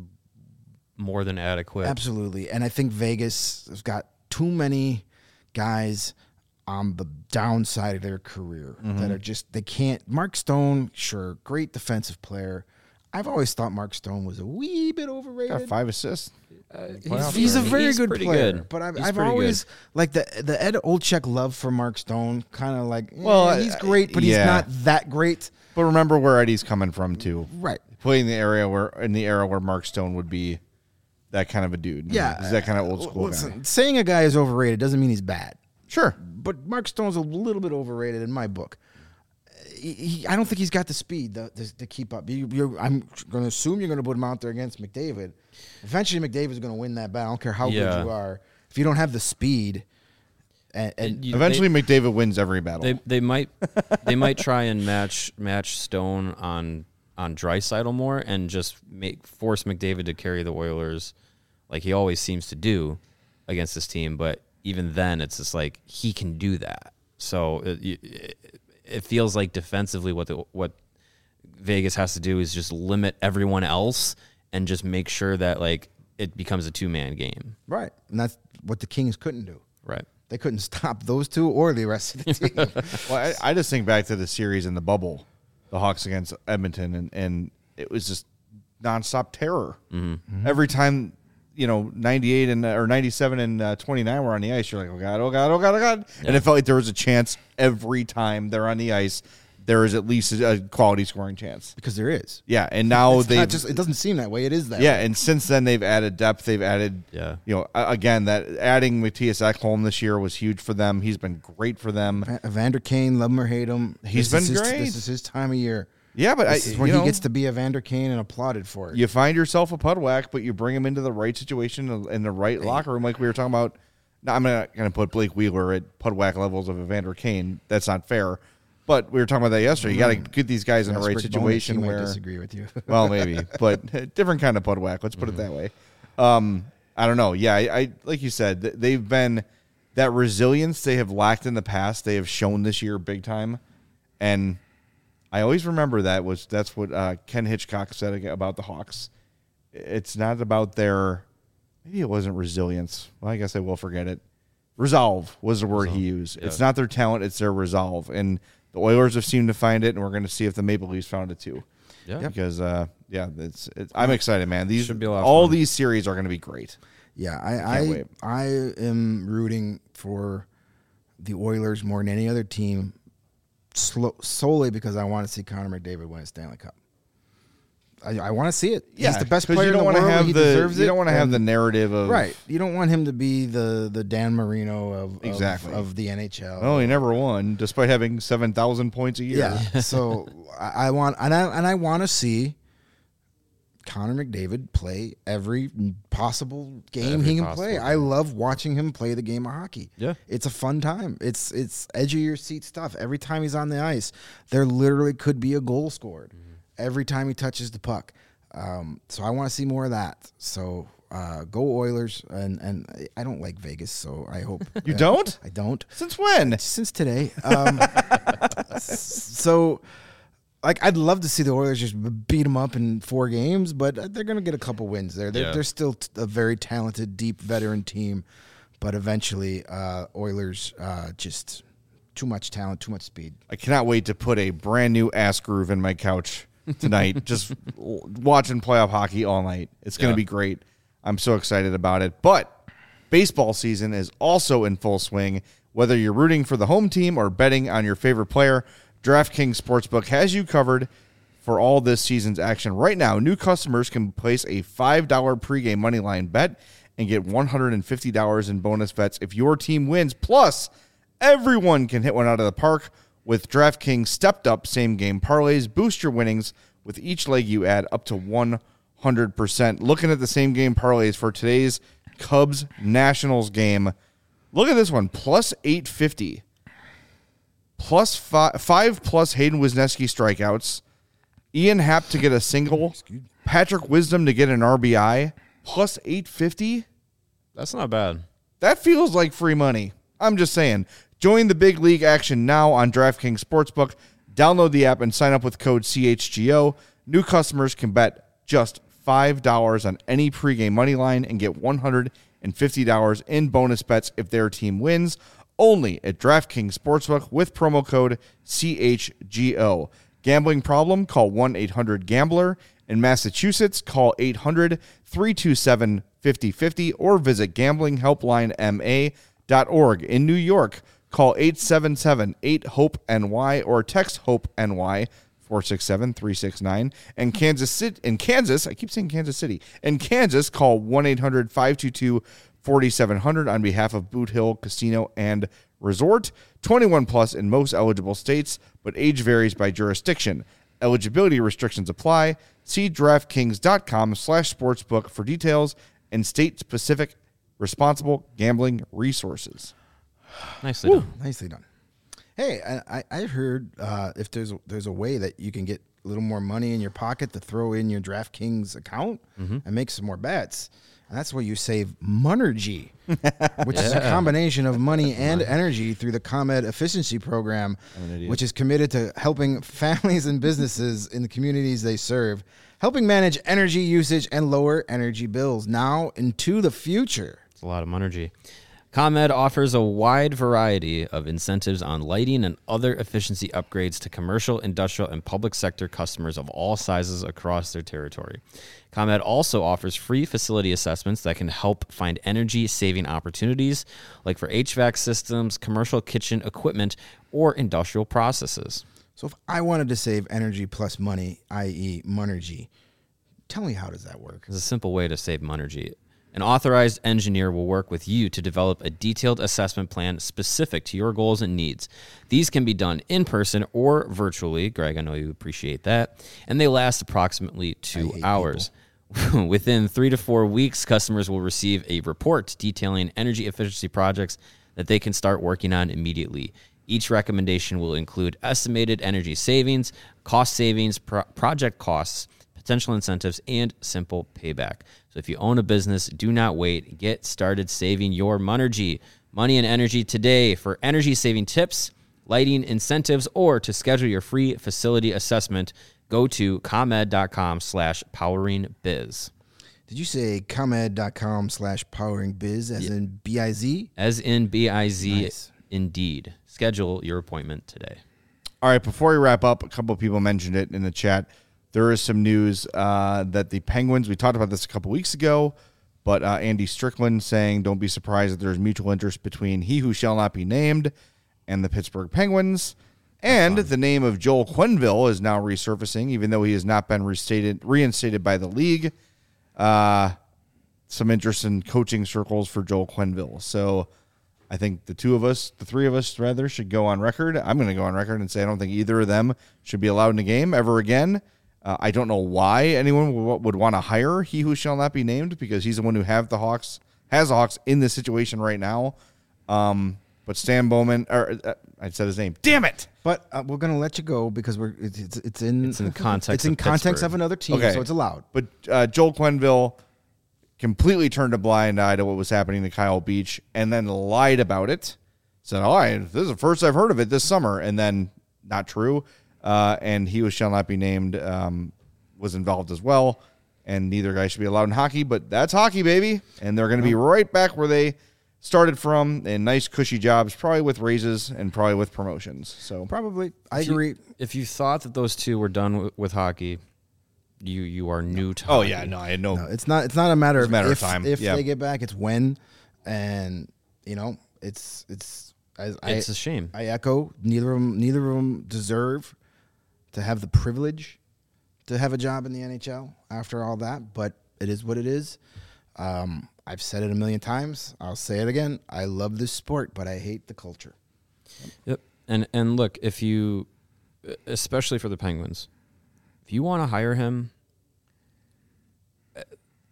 more than adequate. Absolutely. And I think Vegas has got too many guys on the downside of their career that are just, they can't. Mark Stone, sure, great defensive player. I've always thought Mark Stone was a wee bit overrated. Got five assists. He's, he's a very He's good pretty player, good. but I've, He's I've pretty always like the the Ed Olczyk love for Mark Stone. Kind of like, Well, well, he's great, but yeah. he's not that great. But remember where Eddie's coming from too. Right. Playing the area where in the era where Mark Stone would be that kind of a dude. Yeah, He's that kind of old school Listen, guy. saying a guy is overrated doesn't mean he's bad. Sure. But Mark Stone's a little bit overrated in my book. he, he, I don't think he's got the speed to, to, to keep up. You, you're, I'm going to assume you're going to put him out there against McDavid. Eventually, McDavid's going to win that battle. I don't care how Yeah. good you are. If you don't have the speed, and, and You- Eventually, they- McDavid wins every battle. They they might they might try and match match Stone on on Draisaitl more and just make force McDavid to carry the Oilers like he always seems to do against this team. But even then, it's just like he can do that. So it, it, it feels like defensively, what the, what Vegas has to do is just limit everyone else and just make sure that like it becomes a two man game. right, and that's what the Kings couldn't do. Right. They couldn't stop those two or the rest of the team. Well, I, I just think back to the series in the bubble, the Hawks against Edmonton, and, and it was just nonstop terror. Mm-hmm. Every time, you know, ninety-eight and or ninety-seven and uh, twenty-nine were on the ice, you're like, oh god, oh god, oh god, oh god, Yeah. and it felt like there was a chance every time they're on the ice. There is at least a quality scoring chance. Because there is. Yeah, and now It's they not just. It doesn't seem that way. It is that. yeah, way. and since then they've added depth. They've added, Yeah. you know, a- again that adding Matthias Ekholm this year was huge for them. He's been great for them. Va- Evander Kane, love him or hate him, He's this is been his- great. This is his time of year. Yeah, but This I, is when you he know, gets to be Evander Kane and applauded for it. you find yourself a Pudwack, but you bring him into the right situation in the right locker room, like we were talking about. Now, I'm not going to put Blake Wheeler at Pudwack levels of Evander Kane. That's not fair. But we were talking about that yesterday. You got to get these guys in the Yes, right Rick situation Bowness, he might where. disagree with you. Well, maybe, but different kind of Pudwack. Let's put it that way. Um, I don't know. Yeah, I, I like you said, th- they've been that resilience they have lacked in the past. They have shown this year big time, and I always remember that was that's what uh, Ken Hitchcock said ag- about the Hawks. It's not about their maybe it wasn't resilience. Well, I guess I will forget it. Resolve was the word he used. yeah. It's not their talent; it's their resolve, and the Oilers have seemed to find it, and we're going to see if the Maple Leafs found it too. Yeah. Because uh, yeah, it's, it's I'm excited, man. These Should be a lot of all fun. these series are going to be great. Yeah, I Can't I, wait. I am rooting for the Oilers more than any other team, slo- solely because I want to see Connor McDavid win a Stanley Cup. I, I want to see it. He's the best 'cause player you don't in the wanna world. Have he the, deserves you it. don't want to have and- the narrative of right. You don't want him to be the the Dan Marino of of- Exactly. of, the N H L. Oh, he never won, despite having seven thousand points a year. Yeah. so I, I want and I and I want to see Connor McDavid play every possible game Every he can possible play. I love watching him play the game of hockey. Yeah. It's a fun time. It's it's edge of your seat stuff. Every time he's on the ice, there literally could be a goal scored. Mm-hmm. Every time he touches the puck. Um, so I want to see more of that. So uh, go Oilers, and and I don't like Vegas, so I hope You uh, don't? I don't. Since when? Since today. Um, so, like, I'd love to see the Oilers just beat them up in four games, but they're going to get a couple wins there. They're, Yeah. they're still t- a very talented, deep veteran team, but eventually, uh, Oilers uh, just too much talent, too much speed. I cannot wait to put a brand new ass groove in my couch tonight. Just w- watching playoff hockey all night. It's going to Yeah. be great. I'm so excited about it. But baseball season is also in full swing. Whether you're rooting for the home team or betting on your favorite player, DraftKings Sportsbook has you covered for all this season's action. Right now, new customers can place a five dollars pregame moneyline bet and get one hundred fifty dollars in bonus bets if your team wins. Plus, everyone can hit one out of the park with DraftKings stepped up same game parlays. Boost your winnings with each leg you add up to one hundred percent. Looking at the same game parlays for today's Cubs Nationals game. Look at this one, plus eight fifty. Plus five, five plus Hayden Wisniewski strikeouts. Ian Happ to get a single. Patrick Wisdom to get an R B I. Plus eight fifty. That's not bad. That feels like free money. I'm just saying. Join the big league action now on DraftKings Sportsbook. Download the app and sign up with code C H G O. New customers can bet just five dollars on any pregame money line and get one hundred fifty dollars in bonus bets if their team wins. Only at DraftKings Sportsbook with promo code C H G O. Gambling problem? Call one eight hundred gambler. In Massachusetts, call eight hundred three two seven five oh five oh or visit gambling helpline m a dot org. In New York, call eight seven seven eight hope N Y or text HOPE-NY four six seven three six nine. And Kansas City, in Kansas, I keep saying Kansas City. In Kansas, call one eight hundred five two two forty-seven hundred on behalf of Boot Hill Casino and Resort. twenty-one plus in most eligible states, but age varies by jurisdiction. Eligibility restrictions apply. See DraftKings.com slash sportsbook for details and state-specific responsible gambling resources. Nicely Woo, done. nicely done. Hey, I, I I heard uh, if there's a, there's a way that you can get a little more money in your pocket to throw in your DraftKings account Mm-hmm. and make some more bets. And that's where you save Monergy, which is a combination of money and energy through the ComEd efficiency program, which is committed to helping families and businesses in the communities they serve, helping manage energy usage and lower energy bills now into the future. It's a lot of energy. ComEd offers a wide variety of incentives on lighting and other efficiency upgrades to commercial, industrial, and public sector customers of all sizes across their territory. ComEd also offers free facility assessments that can help find energy-saving opportunities, like for H V A C systems, commercial kitchen equipment, or industrial processes. So if I wanted to save energy plus money, that is. Monergy, tell me how does that work? There's a simple way to save energy. An authorized engineer will work with you to develop a detailed assessment plan specific to your goals and needs. These can be done in person or virtually. Greg, I know you appreciate that. And they last approximately two hours. Within three to four weeks, customers will receive a report detailing energy efficiency projects that they can start working on immediately. Each recommendation will include estimated energy savings, cost savings, pro- project costs, potential incentives, and simple payback. So if you own a business, do not wait. Get started saving your Monergy. Money and energy today. For energy-saving tips, lighting incentives, or to schedule your free facility assessment, go to ComEd.com slash powering biz. Did you say ComEd.com slash powering biz as Yeah. in B I Z? As in B I Z, Nice. indeed. Schedule your appointment today. All right, before we wrap up, a couple of people mentioned it in the chat. There is some news uh, that the Penguins, we talked about this a couple weeks ago, but uh, Andy Strickland saying don't be surprised that there's mutual interest between he who shall not be named and the Pittsburgh Penguins. And the name of Joel Quenneville is now resurfacing, even though he has not been restated, reinstated by the league. Uh, some interest in coaching circles for Joel Quenneville. So I think the two of us, the three of us rather, should go on record. I'm going to go on record and say I don't think either of them should be allowed in the game ever again. Uh, I don't know why anyone w- would want to hire he who shall not be named, because he's the one who have the Hawks has the Hawks in this situation right now. Um, but Stan Bowman, or uh, I said his name. Damn it! But uh, we're going to let you go because we're it's it's, it's in It's in the context it's in of context Pittsburgh. of another team, Okay. so it's allowed. But uh, Joel Quenneville completely turned a blind eye to what was happening to Kyle Beach, and then lied about it. Said, "Oh, I, this is the first I've heard of it this summer," and then not true. Uh, and he who shall not be named um, was involved as well. And neither guy should be allowed in hockey, but that's hockey, baby. And they're going to be right back where they started from, in nice, cushy jobs, probably with raises and probably with promotions. So Probably, I If you- agree. If you thought that those two were done w- with hockey, you you are new to Oh hockey. yeah, no, I had no. No, it's not. It's not a matter It's of a matter of if, time. If Yeah. they get back, it's when, and you know, it's it's. As It's I, a shame. I echo. Neither of them. Neither of them deserve to have the privilege to have a job in the N H L after all that. But it is what it is. Um, I've said it a million times. I'll say it again. I love this sport, but I hate the culture. Yep. And and look, if you, especially for the Penguins, if you want to hire him, uh,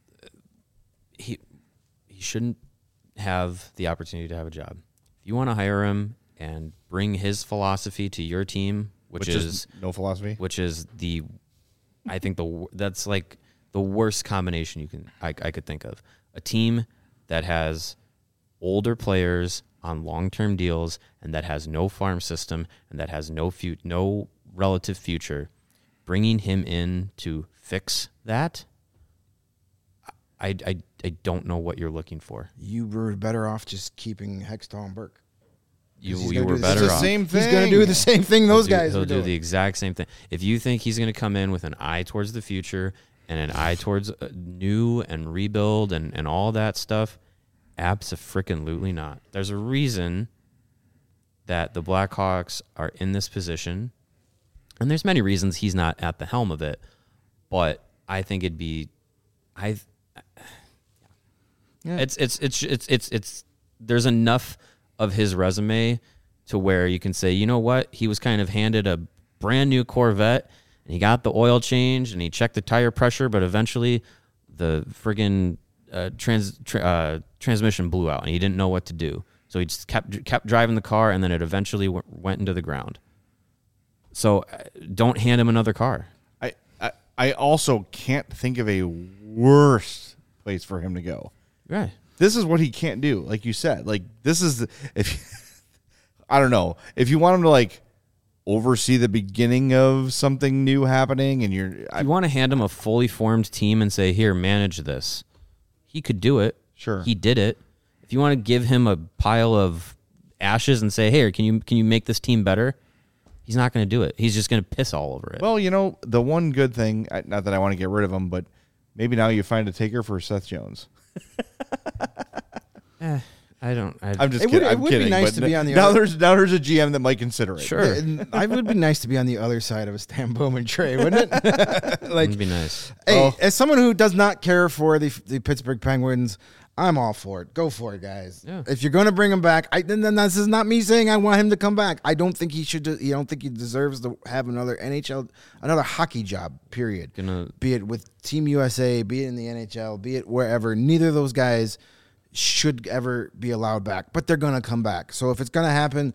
he he shouldn't have the opportunity to have a job. If you want to hire him and bring his philosophy to your team, which, which is, is no philosophy. which is the, I think the wor- that's like the worst combination you can I, I could think of. A team that has older players on long-term deals and that has no farm system and that has no fu- no relative future, bringing him in to fix that, I, I, I don't know what you're looking for. You were better off just keeping Hextall and Burke. You, He's you gonna were do the better It's the off. same thing. He's going to do the same thing those He'll do- guys He'll were do doing. the exact same thing. If you think he's going to come in with an eye towards the future and an eye towards uh, new and rebuild and, and all that stuff, abso-freaking-lutely not. There's a reason that the Blackhawks are in this position, and there's many reasons he's not at the helm of it, but I think it'd be... I. Yeah. It's, it's it's it's it's it's there's enough of his resume to where you can say, you know what, he was kind of handed a brand new Corvette and he got the oil change and he checked the tire pressure, but eventually the friggin' uh, trans tra- uh, transmission blew out and he didn't know what to do. So he just kept kept driving the car, and then it eventually w- went into the ground. So uh, don't hand him another car. I, I I also can't think of a worse place for him to go. Right. This is what he can't do, like you said. Like this is the, if I don't know if you want him to like oversee the beginning of something new happening, and you're I, If you want to hand him a fully formed team and say, "Here, manage this," he could do it. Sure. He did it. If you want to give him a pile of ashes and say, "Hey, can you can you make this team better?" He's not going to do it. He's just going to piss all over it. well, you know, the one good thing, I- not that I want to get rid of him, but maybe now you find a taker for Seth Jones. eh, I don't. I, I'm just It would- kidding. it I'm would be kidding. nice but to be on the now other- there's now there's a G M that might consider it. Sure. And I would be nice to be on the other side of a Stan Bowman trade, wouldn't it? like, It'd be nice. hey, Oh. as someone who does not care for the the Pittsburgh Penguins, I'm all for it. Go for it, guys. Yeah. If you're going to bring him back, I, then, then this is not me saying I want him to come back. I don't think he should. I don't think he deserves to have another N H L, another hockey job. Period. Gonna Be it with Team U S A, be it in the N H L, be it wherever. Neither of those guys should ever be allowed back, but they're going to come back. So if it's going to happen,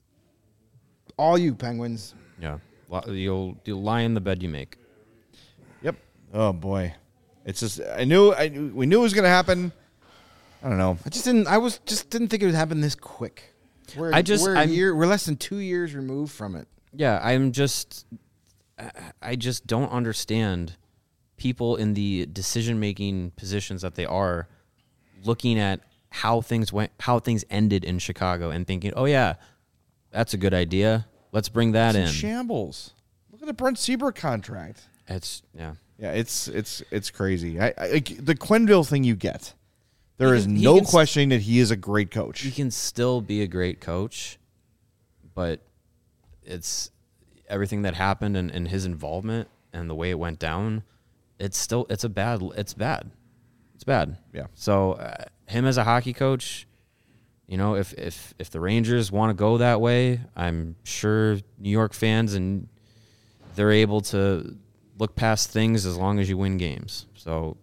all you Penguins. yeah. Li- You'll you'll lie in the bed you make. Yep. Oh boy, it's just I knew I knew- we knew it was going to happen. I don't know. I just didn't. I was just didn't think it would happen this quick. We're, I just- we're a I'm- year. We're less than two years removed from it. Yeah, I'm just, I- I just don't understand people in the decision-making positions that they are looking at how things went, how things ended in Chicago, and thinking, "Oh yeah, that's a good idea. Let's bring that It's in in." shambles. Look at the Brent Seabrook contract. It's yeah. Yeah, it's it's it's crazy. I, I like the Quenneville thing you get. There He is can- he no can s- questioning that he is a great coach. He can still be a great coach, but it's everything that happened and, and his involvement and the way it went down. It's still it's a bad it's bad. It's bad. Yeah. So uh, him as a hockey coach, you know, if if if the Rangers want to go that way, I'm sure New York fans and they're able to look past things as long as you win games. So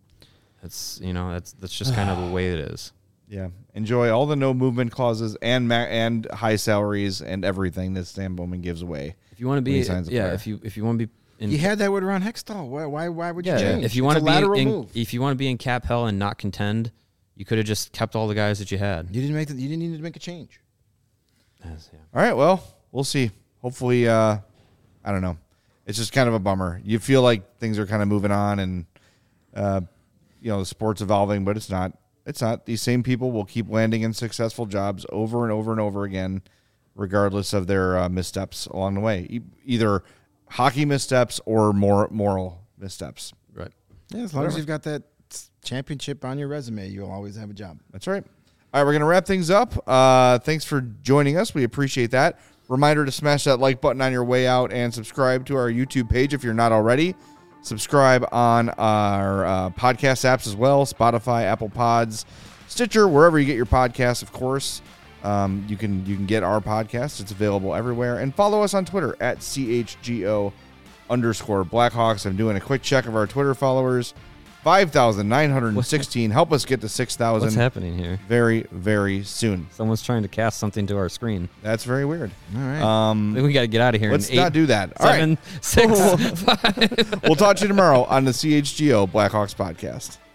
it's you know that's that's just kind of the way it is. Yeah, enjoy all the no movement clauses and ma- and high salaries and everything that Stan Bowman gives away. If you want to When he be, signs a yeah, player. if you if you want to be, in, You had that with Ron Hextall. Why? Why? Why would you yeah, change? if you It's want a to be lateral in, move. if you want to be in cap hell and not contend, you could have just kept all the guys that you had. You didn't make. The, you didn't need to make a change. Yes, yeah. All right, well, we'll see. Hopefully, uh, I don't know. It's just kind of a bummer. You feel like things are kind of moving on and, uh, you know, the sport's evolving, but it's not. It's not. These same people will keep landing in successful jobs over and over and over again, regardless of their uh, missteps along the way. E- either hockey missteps or more moral missteps. Right. Yeah, as long as you've got that championship on your resume, you'll always have a job. That's right. All right, we're going to wrap things up. Uh, thanks for joining us. We appreciate that. Reminder to smash that like button on your way out and subscribe to our YouTube page if you're not already. Subscribe on our uh, podcast apps as well, Spotify, Apple Pods, Stitcher, wherever you get your podcasts, of course. Um, you can you can get our podcast. It's available everywhere. And follow us on Twitter at C H G O underscore Blackhawks. I'm doing a quick check of our Twitter followers. five thousand nine hundred sixteen. Help us get to six thousand. What's happening here? Very, very soon. Someone's trying to cast something to our screen. That's very weird. All right. I Um, think we got to get out of here. let's in not eight, do that. All right. seven, six, five. We'll talk to you tomorrow on the C H G O Blackhawks podcast.